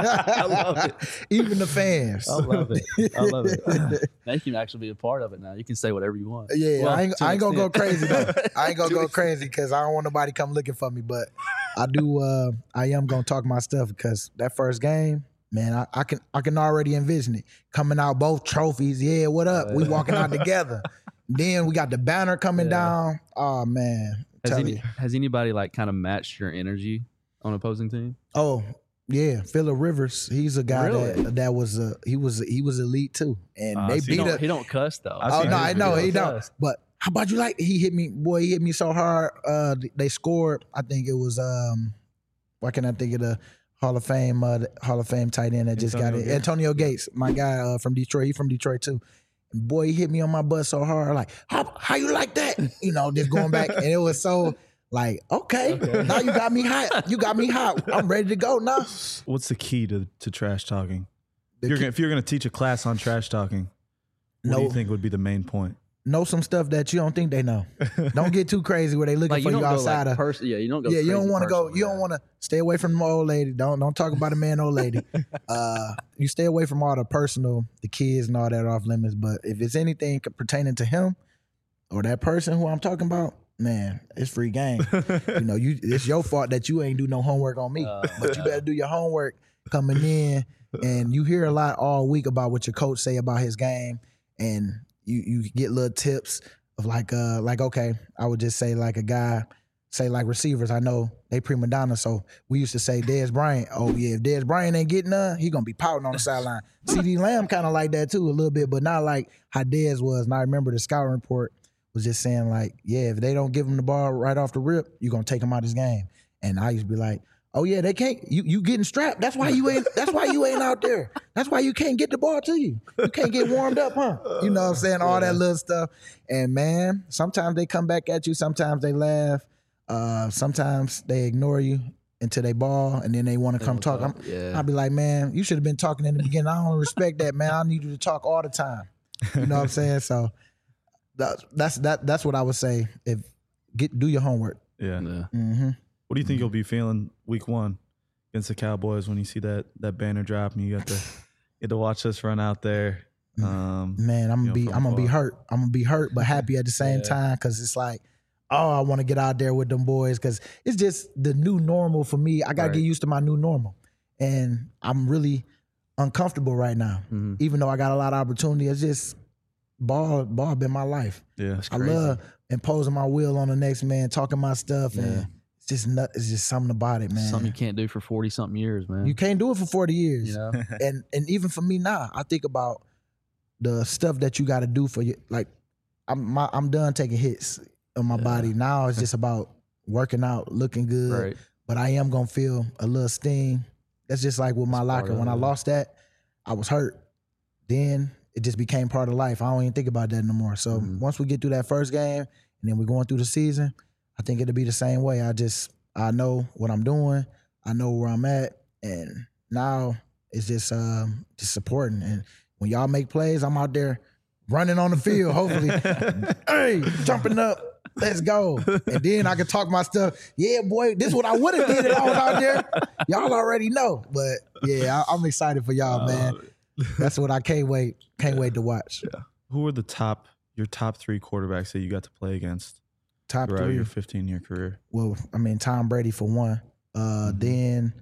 I love it. Even the fans. I love it. I love it. Now you can actually be a part of it now. You can say whatever you want. Yeah, Well, I ain't, to an I ain't gonna go extent. crazy though. I ain't gonna To go an crazy because I don't want nobody come looking for me. But I do. Uh, I am gonna talk my stuff because that first game, man, I, I can I can already envision it coming out both trophies. Yeah, what up? We walking out together. Then we got the banner coming Yeah. down. Oh man, Has, tell any, you. has anybody like kind of matched your energy on opposing team? Oh yeah, Phillip Rivers. He's a guy Really? that that was uh, he was he was elite too, and Uh, they so He beat don't, up. he don't cuss though. I've Oh seen no, his I know videos. he don't. Does. But how about you like he hit me, boy? He hit me so hard. Uh, they scored. I think it was um, why can I think of the Hall of Fame, uh, the Hall of Fame tight end that just got Antonio it. Gates. Antonio Gates, my guy uh, from Detroit. He from Detroit too. And boy, he hit me on my butt so hard. Like, how how you like that? You know, just going back, and it was so like, okay, now you got me hot. You got me hot. I'm ready to go now. What's the key to, to trash talking? The If you're, key- gonna, if you're gonna teach a class on trash talking, what do you No. think would be the main point? Know some stuff that you don't think they know. Don't get too crazy where they looking Like for you you, don't go outside like of. pers- yeah, you don't go. Yeah, you don't crazy want to go. personal, You don't yeah. want to stay away from the old lady. Don't don't talk about a man, old lady. Uh, you stay away from all the personal, the kids and all that off limits. But if it's anything pertaining to him or that person who I'm talking about, man, it's free game. you know, you it's your fault that you ain't do no homework on me. Uh, But you better do your homework coming in. And you hear a lot all week about what your coach say about his game, and you you get little tips of like uh like okay, I would just say like a guy say like receivers. I know they prima donna, so we used to say Dez Bryant. Oh yeah, if Dez Bryant ain't getting none, he gonna be pouting on the sideline. CeeDee Lamb kind of like that too a little bit, but not like how Dez was. And I remember the scouting report was just saying like, yeah, if they don't give him the ball right off the rip, you're gonna take him out of his game. And I used to be like, oh yeah, they can't. You you getting strapped. That's why you ain't. That's why you ain't out there. That's why you can't get the ball to you. You can't get warmed up, huh? You know what I'm saying? All that little stuff. And man, sometimes they come back at you. Sometimes they laugh. Uh, sometimes they ignore you until they ball, and then they want to They come don't talk. talk, I'm, yeah. I'll be like, man, you should have been talking in the beginning. I don't respect that, man. I need you to talk all the time. You know what I'm saying? So that, that's that. That's what I would say. If get do your homework. Yeah. Yeah. Mm-hmm. What do you think you'll be feeling week one against the Cowboys when you see that that banner drop and you got to get to watch us run out there? Um, Man, I'm you gonna know, be from I'm gonna be afar. hurt. I'm gonna be hurt, but happy at the same Yeah. time because it's like, oh, I want to get out there with them boys because it's just the new normal for me. I gotta Right. get used to my new normal, and I'm really uncomfortable right now. Mhm. Even though I got a lot of opportunity, it's just ball ball been my life. Yeah. I Crazy. love imposing my will on the next man, talking my stuff, Yeah. and it's just nut. It's just something about it, man. Something you can't do for forty something years, man. You can't do it for forty years. You know? and and even for me now, I think about the stuff that you got to do for you. Like, I'm my, I'm done taking hits on my Yeah. body. Now it's just about working out, looking good. Right. But I am gonna feel a little sting. That's just like with my That's part locker. of When I it. lost that, I was hurt. Then it just became part of life. I don't even think about that no more. So Mhm. once we get through that first game, and then we're going through the season, I think it'll be the same way. I just I know what I'm doing. I know where I'm at, and now it's just um, just supporting. And when y'all make plays, I'm out there running on the field. Hopefully, hey, jumping up. Let's go. And then I can talk my stuff. Yeah, boy, this is what I would have did if I was out there. Y'all already know. But yeah, I, I'm excited for y'all, man. That's what I can't wait. Can't wait to watch. Who are the top your top three quarterbacks that you got to play against Top throughout three. your fifteen year career? Well, I mean, Tom Brady for one. Uh, Mhm. Then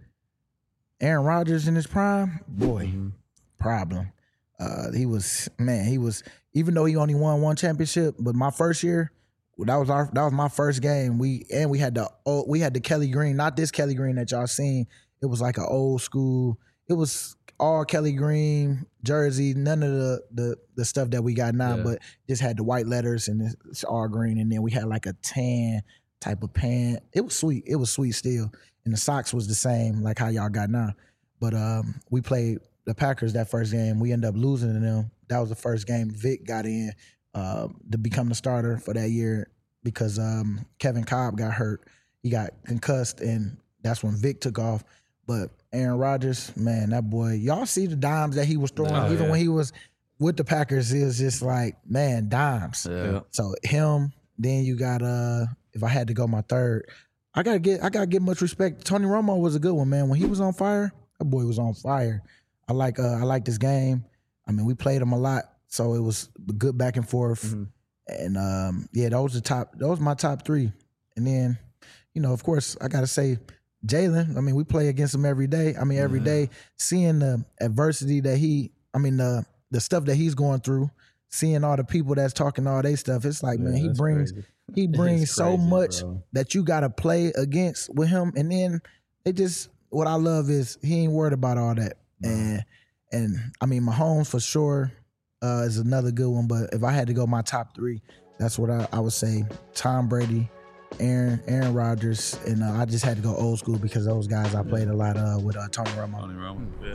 Aaron Rodgers in his prime, boy, Mhm. problem. Uh, he was man. He was even though he only won one championship, but my first year, that was our that was my first game. We and we had the old, we had the Kelly Green, not this Kelly Green that y'all seen. It was like an old school. It was all Kelly Green jersey, none of the the the stuff that we got now, Yeah. but just had the white letters and it's all green. And then we had like a tan type of pant. It was sweet. It was sweet still. And the socks was the same, like how y'all got now. But um, we played the Packers that first game. We ended up losing to them. That was the first game Vic got in uh, to become the starter for that year because um, Kevin Cobb got hurt. He got concussed, and that's when Vic took off. But Aaron Rodgers, man, that boy, y'all see the dimes that he was throwing, Oh, even yeah. when he was with the Packers, it was just like, man, dimes. Yeah. So him, then you got uh if I had to go my third, I gotta get I gotta get much respect. Tony Romo was a good one, man. When he was on fire, that boy was on fire. I like uh I like this game. I mean, we played him a lot, so it was good back and forth. Mm-hmm. And um yeah, those the top those my top three. And then, you know, of course, I gotta say Jalen. I mean, we play against him every day. I mean, every Yeah. day, seeing the adversity that he, I mean, the the stuff that he's going through, seeing all the people that's talking all they stuff. It's like, man, he that's brings crazy. he brings It's so crazy, much bro. that you got to play against with him. And then they just, what I love is he ain't worried about all that. And and I mean, Mahomes for sure uh, is another good one. But if I had to go my top three, that's what I, I would say: Tom Brady, Aaron Aaron Rodgers, and uh, I just had to go old school because those guys I played a lot uh, with uh, Tony Romo. Tony Romo. Yeah.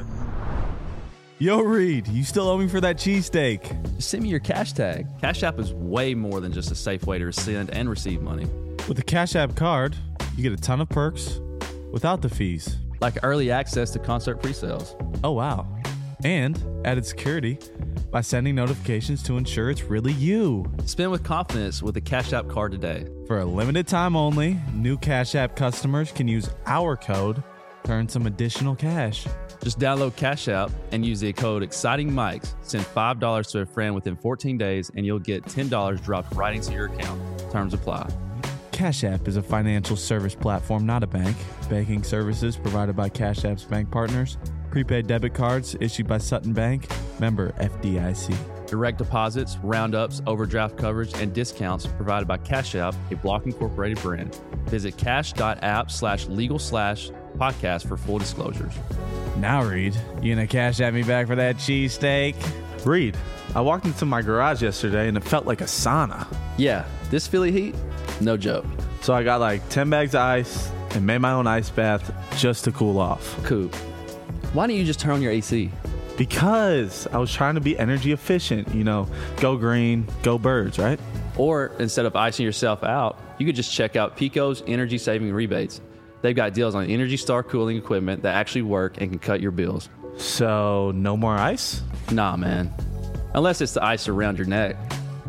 Yo, Reed, you still owe me for that cheesesteak. Just send me your cash tag. Cash App is way more than just a safe way to send and receive money. With the Cash App card, you get a ton of perks without the fees. Like early access to concert pre-sales. Oh, wow. And added security by sending notifications to ensure it's really you. Spend with confidence with the Cash App card today. For a limited time only, new Cash App customers can use our code to earn some additional cash. Just download Cash App and use the code EXCITINGMICS. Send five dollars to a friend within fourteen days and you'll get ten dollars dropped right into your account. Terms apply. Cash App is a financial service platform, not a bank. Banking services provided by Cash App's bank partners. Prepaid debit cards issued by Sutton Bank. Member F D I C. Direct deposits, roundups, overdraft coverage, and discounts provided by Cash App, a Block Incorporated brand. Visit cash.app slash legal slash podcast for full disclosures. Now, Reed, you gonna cash at me back for that cheesesteak? Reed, I walked into my garage yesterday and it felt like a sauna. Yeah, this Philly heat, no joke. So I got like ten bags of ice and made my own ice bath just to cool off. Coop, why don't you just turn on your A C? Because I was trying to be energy efficient, you know, go green, go birds, right? Or instead of icing yourself out, you could just check out Pico's energy saving rebates. They've got deals on Energy Star cooling equipment that actually work and can cut your bills. So no more ice? Nah, man. Unless it's the ice around your neck.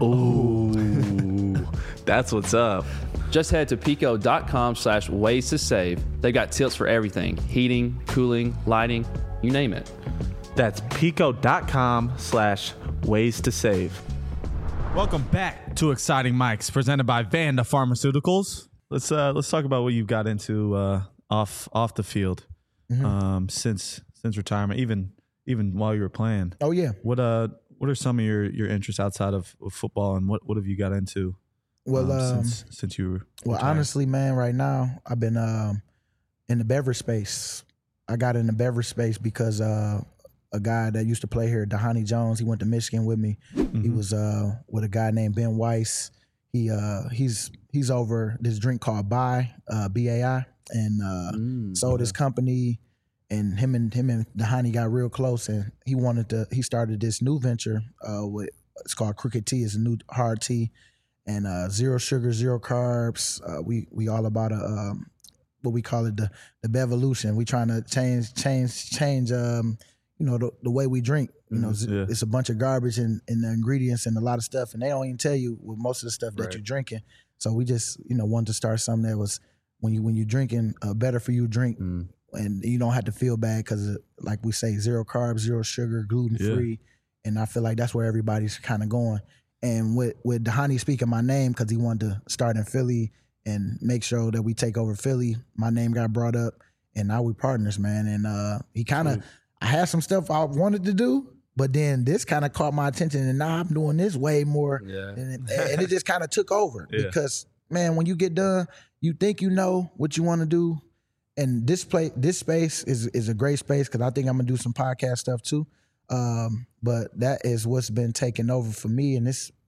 Ooh, that's what's up. Just head to pico.com slash ways to save. They got tips for everything. Heating, cooling, lighting, you name it. That's pico.com slash ways to save. Welcome back to Exciting Mics, presented by Vanda Pharmaceuticals. Let's uh let's talk about what you've got into uh off off the field Mm-hmm. um since since retirement, even even while you were playing. Oh yeah. What uh what are some of your your interests outside of, of football, and what what have you got into Well, um, um, since since you were well, retired? honestly, man, right now I've been um, in the beverage space. I got in the beverage space because uh, a guy that used to play here, Dahani Jones, he went to Michigan with me. He Mhm. was uh, with a guy named Ben Weiss. He uh, he's he's over this drink called Bai, uh, B A I, and uh, Mm, sold his company. And him and him and Dahani got real close, and he wanted to. He started this new venture. Uh, with it's called Crooked Tea. It's a new hard tea, and uh, zero sugar, zero carbs. Uh, we we all about a um, what we call it the the Bevolution. We trying to change change change um, you know the, the way we drink. You know, yeah. it's a bunch of garbage in, in the ingredients and a lot of stuff, and they don't even tell you with most of the stuff that Right. you're drinking. So we just you know wanted to start something that was when you when you're drinking a better for you drink. mm. And you don't have to feel bad because, like we say, zero carbs, zero sugar, gluten free, and I feel like that's where everybody's kind of going. And with with Dahani speaking my name because he wanted to start in Philly and make sure that we take over Philly, my name got brought up, and now we partners, man. And uh, he kind of, I had some stuff I wanted to do, but then this kind of caught my attention, and now I'm doing this way more, Yeah. and, it, and it just kind of took over Yeah. because, man, when you get done, you think you know what you want to do. And this play, this space is is a great space because I think I'm gonna do some podcast stuff too. Um, but that is what's been taking over for me, and it's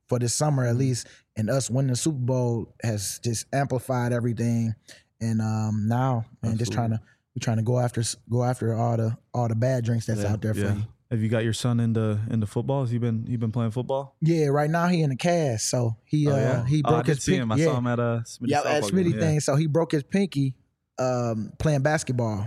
for this summer at least. And us winning the Super Bowl has just amplified everything. And um, now, man, just trying to we're trying to go after go after all the all the bad drinks that's Yeah, out there for Yeah. you. Have you got your son into into football? Has he been he been playing football? Yeah, right now he in the cast, so he Oh, uh yeah? he Oh, I broke did his see pinky. him. I yeah. saw him at a Smitty Yeah, at softball Smitty game. thing. So he broke his pinky um, playing basketball,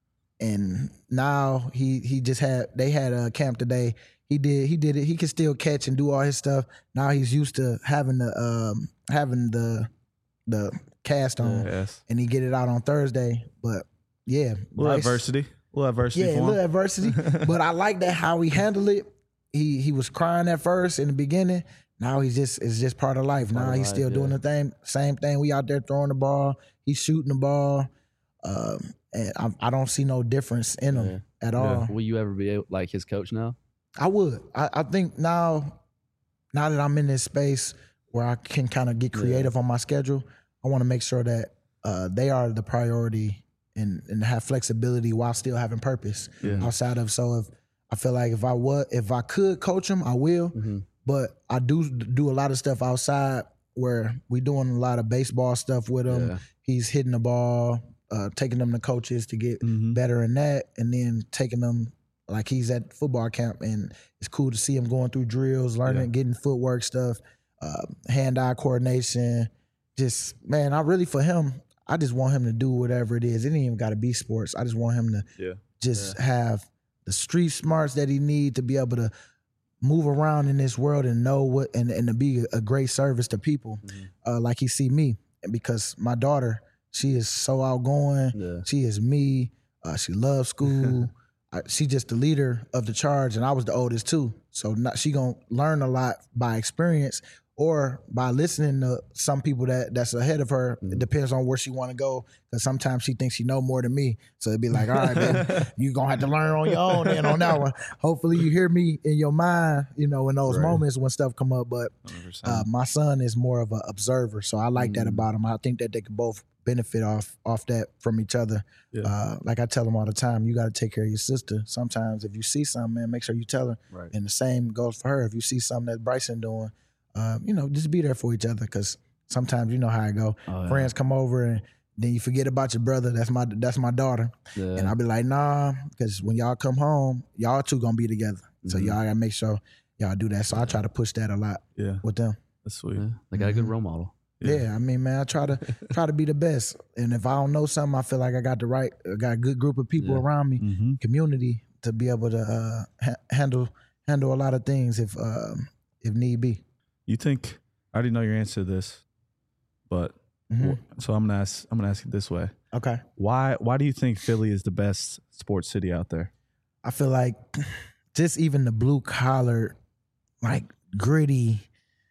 and now he he just had they had a camp today. He did he did it. He can still catch and do all his stuff. Now he's used to having the um, having the the cast on, Yeah. Yes. and he get it out on Thursday. But yeah, Little Bryce- adversity. Little adversity Yeah, a for little him. adversity. But I like that how he handled it. He he was crying at first in the beginning. Now he's just it's just part of life. Now of he's life, still doing yeah. the thing, same thing. We out there throwing the ball. He's shooting the ball, um, and I, I don't see no difference in him at all. Will you ever be able, like his coach now? I would. I, I think now, now that I'm in this space where I can kind of get creative on my schedule, I want to make sure that uh, they are the priority and and have flexibility while still having purpose Yeah. outside of. So if I feel like if I was if I could coach them, I will. Mm-hmm. But I do do a lot of stuff outside where we doing a lot of baseball stuff with him. Yeah. He's hitting the ball, uh, taking them to coaches to get Mhm. better in that, and then taking them like he's at football camp, and it's cool to see him going through drills, learning, Yeah. getting footwork stuff, uh, hand-eye coordination. Just man, I really for him, I just want him to do whatever it is. It ain't even got to be sports. I just want him to Yeah. just have the street smarts that he need to be able to move around in this world and know what and, and to be a great service to people, uh, like he see me. Because my daughter, she is so outgoing. Yeah. She is me. Uh, she loves school. I, she just the leader of the charge, and I was the oldest too. So not, she gonna learn a lot by experience or by listening to some people that that's ahead of her. It depends on where she want to go. Because sometimes she thinks she know more than me. So it'd be like, all right, baby, you gonna have to learn on your own. Then on that one, hopefully you hear me in your mind, you know, in those Right. moments when stuff come up. But one hundred percent. uh, my son is more of an observer, so I like that about him. I think that they can both benefit off off that from each other. Yeah. Uh, like I tell them all the time, you got to take care of your sister. Sometimes if you see something, man, make sure you tell her. Right. And the same goes for her. If you see something that Bryson doing, uh, you know, just be there for each other because sometimes you know how it go. Oh, yeah. Friends come over and then you forget about your brother. That's my that's my daughter, Yeah. and I'll be like, nah, because when y'all come home, y'all two gonna be together. So Mhm. y'all gotta make sure y'all do that. So I try to push that a lot Yeah. with them. That's sweet. Yeah. They got a good role model. Yeah. I mean, man, I try to try to be the best. And if I don't know something, I feel like I got the right, I got a good group of people Yeah. around me, Mm-hmm. community to be able to uh, ha- handle handle a lot of things if um, if need be. You think I already know your answer to this, but Mhm. so I'm gonna ask. I'm gonna ask it this way: Okay, Why? Why do you think Philly is the best sports city out there? I feel like just even the blue collar, like gritty,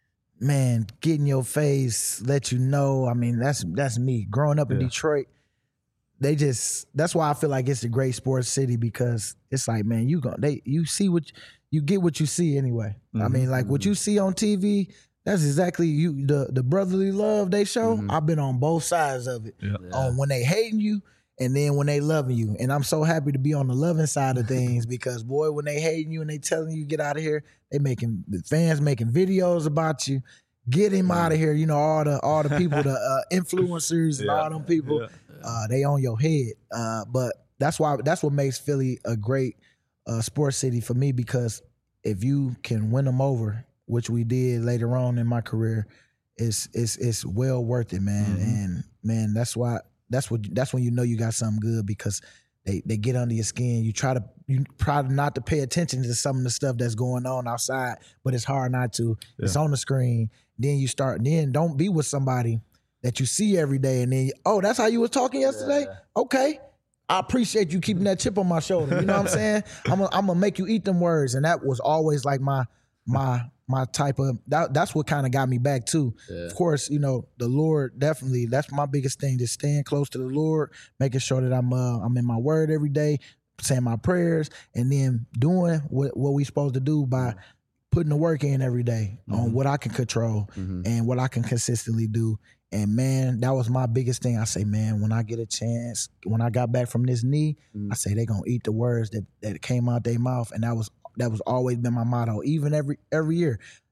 man, get in your face, let you know. I mean, that's that's me. Growing up in Yeah. Detroit, they just that's why I feel like it's a great sports city because it's like, man, you go they you see what you get what you see anyway. I Mhm. mean, like what you see on T V, that's exactly you the the brotherly love they show. Mhm. I've been on both sides of it. Yeah. Yeah. On when they hating you and then when they loving you. And I'm so happy to be on the loving side of things because boy, when they hating you and they telling you get out of here, they making the fans making videos about you. Get him out of here. You know, all the all the people, the uh, influencers and Yeah. all them people, Yeah. uh, they on your head. Uh, but that's why that's what makes Philly a great uh, sports city for me because if you can win them over, which we did later on in my career, it's it's it's well worth it, man. Mhm. And man, that's why that's what that's when you know you got something good because they they get under your skin. You try to you try not to pay attention to some of the stuff that's going on outside, but it's hard not to. It's Yeah. on the screen. Then you start. Then don't be with somebody that you see every day, and then oh, that's how you was talking yesterday. Okay. I appreciate you keeping that chip on my shoulder. You know what I'm saying? I'm gonna, I'm gonna make you eat them words, and that was always like my my my type of that. That's what kind of got me back too. Yeah. Of course, you know the Lord definitely. That's my biggest thing. Just staying close to the Lord, making sure that I'm uh, I'm in my word every day, saying my prayers, and then doing what what we supposed to do by putting the work in every day on what I can control Mhm. and what I can consistently do. And man, that was my biggest thing. I say, man, when I get a chance, when I got back from this knee, Mhm. I say they gonna eat the words that that came out their mouth, and that was that was always been my motto. Even every every year,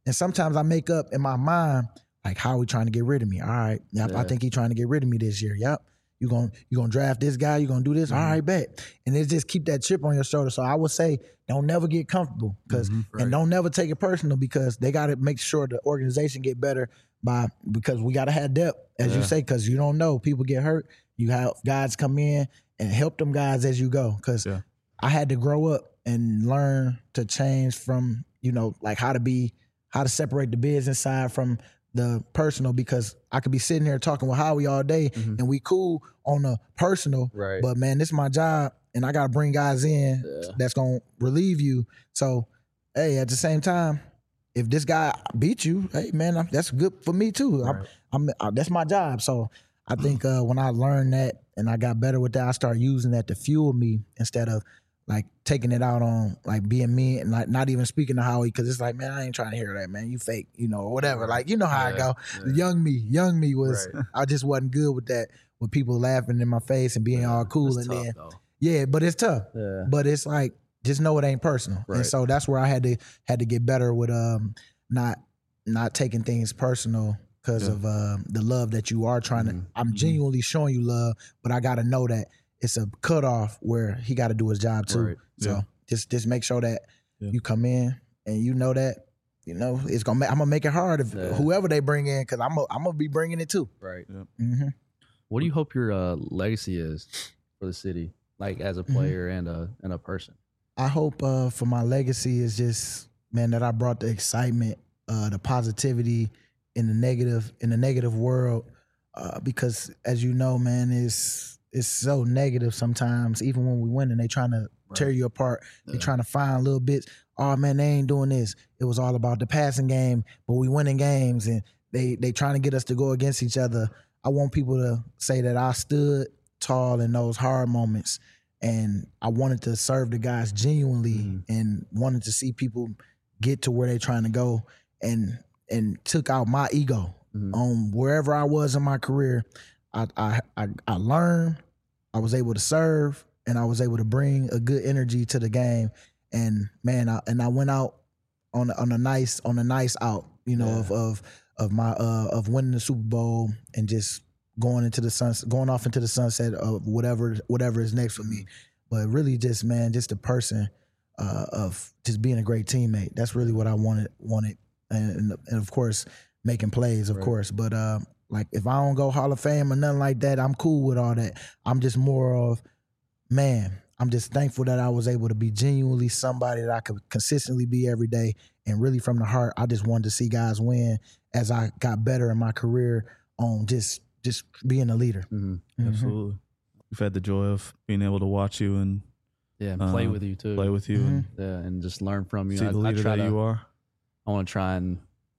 And sometimes I make up in my mind, like, how are we trying to get rid of me? All right. Yep, Yeah. I think he's trying to get rid of me this year. Yep. You're going you gonna draft this guy. You're going to do this. Mm-hmm. All right, bet. And it just keep that chip on your shoulder. So I would say don't never get comfortable because Mm-hmm. Right. and don't never take it personal because they got to make sure the organization get better by because we got to have depth, as Yeah. you say, because you don't know. People get hurt. You have guys come in and help them guys as you go because Yeah. I had to grow up and learn to change from, you know, like how to be, how to separate the business side from the personal because I could be sitting here talking with Howie all day Mhm. and we cool on the personal, Right. but man, this is my job and I got to bring guys in Yeah. that's going to relieve you. So, hey, at the same time, if this guy beat you, hey man, I'm, that's good for me too. Right. I'm, I'm uh, that's my job. So I think uh, when I learned that and I got better with that, I started using that to fuel me instead of like taking it out on like being me and like not even speaking to Howie because it's like, man, I ain't trying to hear that, man. You fake, you know, or whatever. Like, you know how I Yeah, go. yeah. Young me, young me was, Right. I just wasn't good with that, with people laughing in my face and being Yeah. all cool. It's and tough, then, though. yeah, but it's tough. Yeah. But it's like, just know it ain't personal. Right. And so that's where I had to had to get better with um not not taking things personal because Yeah. of uh, the love that you are trying Mhm. to. I'm genuinely showing you love, but I got to know that it's a cutoff where he got to do his job too. Right. So Yeah. just just make sure that Yeah. you come in and you know that you know it's gonna. Ma- I'm gonna make it hard if Yeah. whoever they bring in because I'm a, I'm gonna be bringing it too. Right. Mm-hmm. What do you hope your uh, legacy is for the city, like as a Mm-hmm. player and a and a person? I hope uh, for my legacy is just, man, that I brought the excitement, uh, the positivity in the negative in the negative world, uh, because as you know, man, it's it's so negative sometimes. Even when we win and they trying to tear you apart, they Yeah. trying to find little bits. Oh man, they ain't doing this. It was all about the passing game, but we winning games, and they they trying to get us to go against each other. I want people to say that I stood tall in those hard moments. And I wanted to serve the guys genuinely Mhm. and wanted to see people get to where they're trying to go and and took out my ego Mhm. on wherever I was in my career. I, I I I learned, I was able to serve, and I was able to bring a good energy to the game. And man, I, and I went out on on a nice on a nice out, you know, Yeah. of of of my uh of winning the Super Bowl and just going into the sunset, going off into the sunset of whatever whatever is next for me. But really, just man, just a person uh, of just being a great teammate. That's really what I wanted wanted, and and of course making plays, of Right. course. But uh, like if I don't go Hall of Fame or nothing like that, I'm cool with all that. I'm just more of, man, I'm just thankful that I was able to be genuinely somebody that I could consistently be every day, and really from the heart, I just wanted to see guys win as I got better in my career on just just being a leader. Mhm. Mhm. Absolutely. We've had the joy of being able to watch you and Yeah, and play Uh, with you too. play with you Mhm. and Yeah, and just learn from you. see I, the I leader try that to, you are. I want to try and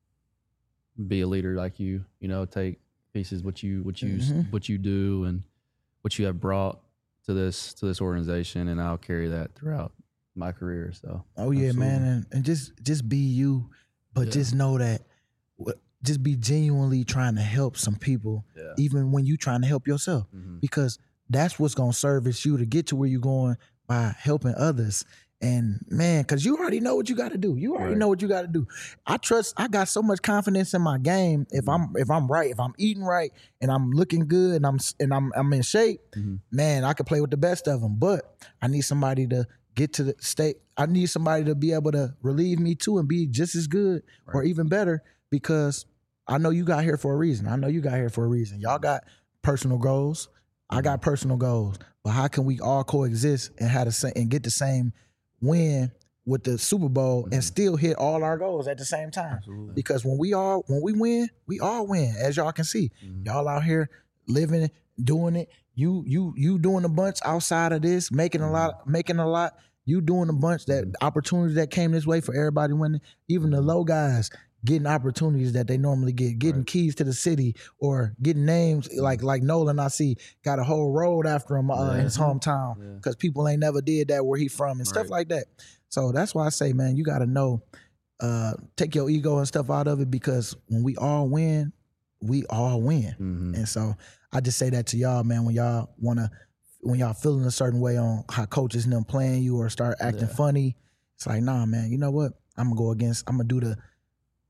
be a leader like you. You know, take pieces what you what you Mhm. what you do and what you have brought to this to this organization, and I'll carry that throughout my career. So Oh yeah, man, Absolutely. and, and just just be you, but Yeah. just know that, wh- just be genuinely trying to help some people, yeah, even when you trying to help yourself, Mhm. because that's what's gonna service you to get to where you're going by helping others. And man, because you already know what you got to do. You already Right. know what you got to do. I trust. I got so much confidence in my game. If I'm if I'm right, if I'm eating right, and I'm looking good, and I'm and I'm I'm in shape, Mhm. man, I could play with the best of them. But I need somebody to get to the state. I need somebody to be able to relieve me too and be just as good or Right. even better, because I know you got here for a reason. I know you got here for a reason. Y'all got personal goals. I got personal goals. But how can we all coexist and have the same and get the same win with the Super Bowl and Mhm. still hit all our goals at the same time? Absolutely. Because when we all when we win, we all win, as y'all can see. Mhm. Y'all out here living it, doing it. You you you doing a bunch outside of this, making a lot, making a lot. You doing a bunch that opportunities that came this way for everybody winning. Even the low guys getting opportunities that they normally get, getting Right. keys to the city or getting names like like Nolan. I see got a whole road after him uh, in his Yeah. hometown Yeah. because people ain't never did that where he from and stuff Right. like that. So that's why I say, man, you got to know, uh, take your ego and stuff out of it, because when we all win, we all win. Mhm. And so I just say that to y'all, man, when y'all want to, when y'all feeling a certain way on how coaches and them playing you or start acting Yeah. funny, it's like, nah, man, you know what? I'm going to go against, I'm going to do the,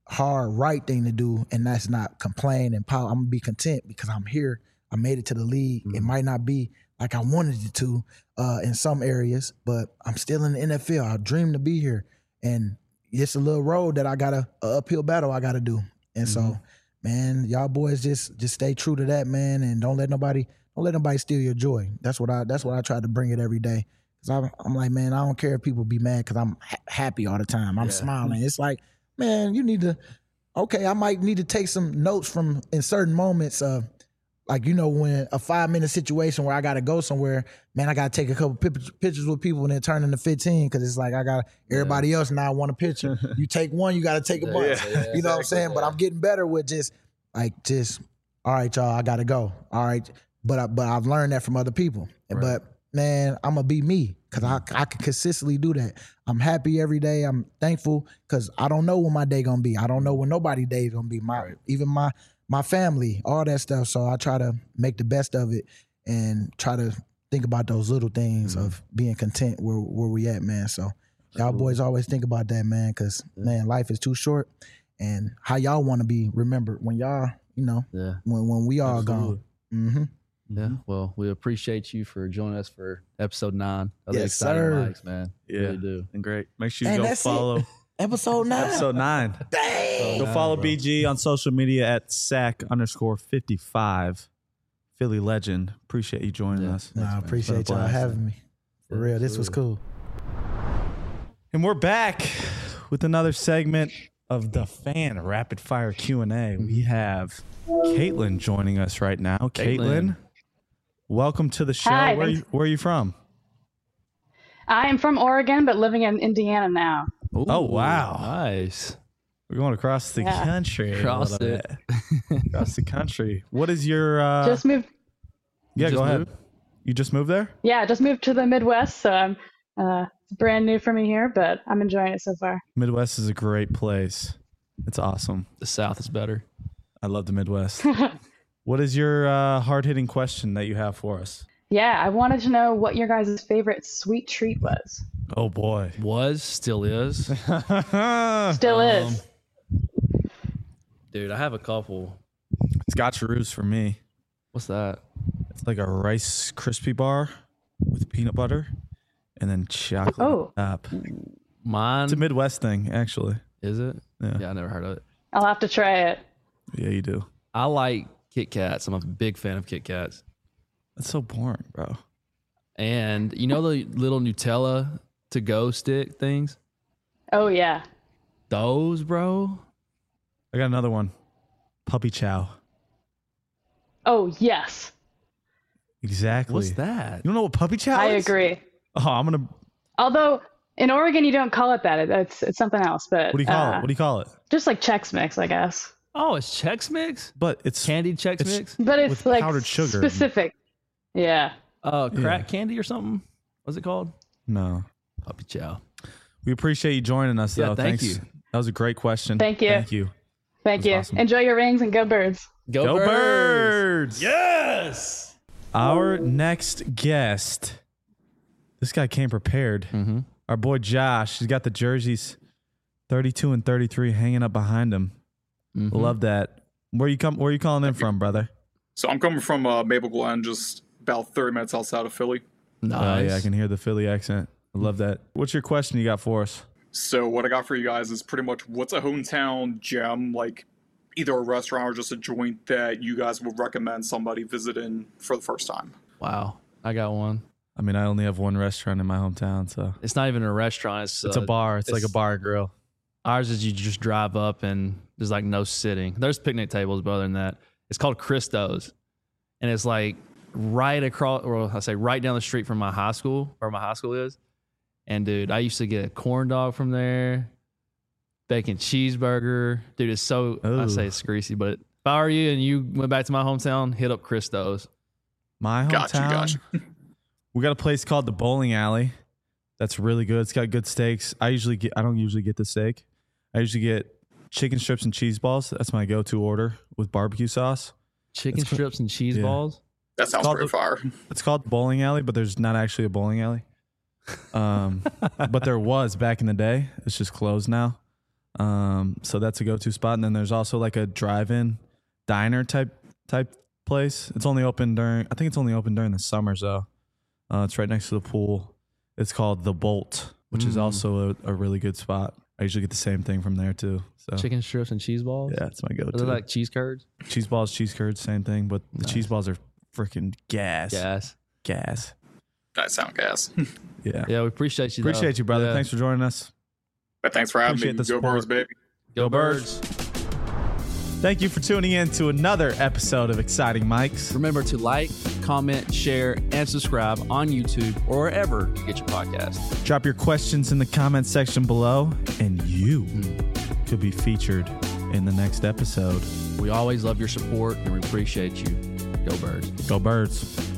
hard, right thing to do, and that's not complain and power. I'm gonna be content because I'm here. I made it to the league. Mm-hmm. It might not be like I wanted it to uh, in some areas, but I'm still in the N F L. I dream to be here, and it's a little road that I got a, a uphill battle I got to do. And mm-hmm. so, man, y'all boys just just stay true to that, man, and don't let nobody don't let nobody steal your joy. That's what I that's what I try to bring it every day. Cause I'm, I'm like, man, I don't care if people be mad because I'm ha- happy all the time. I'm yeah. smiling. It's like, man, you need to. Okay, I might need to take some notes from in certain moments of. Like, you know, when a five-minute situation where I got to go somewhere, man, I got to take a couple pictures with people and then turn into fifteen because it's like I got everybody yeah. else now want a picture. You take one, you got to take a bunch. Yeah, yeah, you know exactly, what I'm saying? Yeah. But I'm getting better with just, like, just, all right, y'all, I got to go. All right. But, I, but I've learned that from other people. Right. But, man, I'm going to be me because I, I can consistently do that. I'm happy every day. I'm thankful because I don't know when my day going to be. I don't know when nobody's day is going to be. My right. Even my... my family, all that stuff. So I try to make the best of it and try to think about those little things mm-hmm. of being content where where we at, man. So y'all boys always think about that, man, because, man, life is too short. And how y'all want to be remembered when y'all, you know, yeah. when, when we all Absolutely. Gone. Mm-hmm. Yeah, well, we appreciate you for joining us for episode nine of yes, the Exciting sir. Mics, man. Yeah, really do. And great. Make sure you and go follow. It. Episode nine. Episode nine. Dang. Go follow bro. B G on social media at sack underscore fifty-five. Philly legend. Appreciate you joining yeah. us. No, I appreciate y'all having me. For real, this was cool. And we're back with another segment of the Fan Rapid Fire Q and A. We have Caitlin joining us right now. Caitlin, Caitlin welcome to the show. Hi, where, are you, where are you from? I am from Oregon, but living in Indiana now. Ooh, oh, wow. Nice. We're going across the yeah. country. Across a little it. bit. Across the country. What is your... Uh, just moved. Yeah, just go moved? ahead. You just moved there? Yeah, just moved to the Midwest, so I'm uh, brand new for me here, but I'm enjoying it so far. Midwest is a great place. It's awesome. The South is better. I love the Midwest. What is your uh, hard-hitting question that you have for us? Yeah, I wanted to know what your guys' favorite sweet treat was. Oh, boy. Was, still is. Still um, is. Dude, I have a couple. Scotcheroos for me. What's that? It's like a Rice Krispie bar with peanut butter and then chocolate oh. top. Mine? It's a Midwest thing, actually. Is it? Yeah. Yeah, I never heard of it. I'll have to try it. Yeah, you do. I like Kit Kats. I'm a big fan of Kit Kats. That's so boring, bro. And you know the little Nutella to-go stick things? Oh, yeah. Those, bro? I got another one. Puppy Chow. Oh, yes. Exactly. What's that? You don't know what Puppy Chow I is? agree. Oh, I'm going to... Although, in Oregon, you don't call it that. It's it's something else. But What do you call uh, it? What do you call it? Just like Chex Mix, I guess. Oh, it's Chex Mix? But it's... Candied Chex it's, Mix? But it's with like powdered sugar. specific. Yeah. Uh, crack Yeah. candy or something? What's it called? No. Puppy Chow. We appreciate you joining us, though. Yeah, thank Thanks. you. That was a great question. Thank you. Thank you. Thank you. Awesome. Enjoy your rings and go Birds. Go, Go birds. Birds! Yes! Our next guest, this guy came prepared. Mm-hmm. Our boy Josh, he's got the jerseys thirty-two and thirty-three hanging up behind him. Mm-hmm. Love that. Where you come? Where you calling in from, brother? So I'm coming from uh, Maple Glen, just about thirty minutes outside of Philly. Nice. Oh, yeah, I can hear the Philly accent. I love that. What's your question you got for us? So what I got for you guys is pretty much what's a hometown gem, like either a restaurant or just a joint that you guys would recommend somebody visiting for the first time? Wow. I got one. I mean, I only have one restaurant in my hometown, so It's not even a restaurant. It's, it's uh, a bar. It's, it's- like a bar and grill. Ours is you just drive up and there's like no sitting. There's picnic tables, but other than that, it's called Christo's. And it's like right across, or I say right down the street from my high school, where my high school is. And dude, I used to get a corn dog from there, bacon cheeseburger. Dude, it's so, I Ooh. say it's greasy, but if I were you and you went back to my hometown, hit up Christo's. My hometown, Gotcha, gotcha. we got a place called the Bowling Alley. That's really good. It's got good steaks. I usually get, I don't usually get the steak. I usually get chicken strips and cheese balls. That's my go-to order with barbecue sauce. Chicken It's co- strips and cheese yeah. balls. That sounds called pretty the- fire. It's called the Bowling Alley, but there's not actually a bowling alley. Um, but there was back in the day. It's just closed now. Um, so that's a go-to spot. And then there's also like a drive-in diner type type place. It's only open during, I think it's only open during the summers though. Uh, it's right next to the pool. It's called The Bolt, which mm. is also a, a really good spot. I usually get the same thing from there too. So chicken strips and cheese balls. Yeah, it's my go-to. Are they like cheese curds? Cheese balls, cheese curds, same thing. But the nice. cheese balls are freaking gas. Gas. Gas. That sound gas. Yeah. Yeah, we appreciate you. Appreciate though. you, brother. Yeah. Thanks for joining us. But thanks for having Appreciate me. the Go support. Birds, baby. Go, Go Birds. Birds. Thank you for tuning in to another episode of Exciting Mics. Remember to like, comment, share, and subscribe on YouTube or wherever you get your podcast. Drop your questions in the comment section below, and you mm. could be featured in the next episode. We always love your support, and we appreciate you. Go Birds. Go Birds.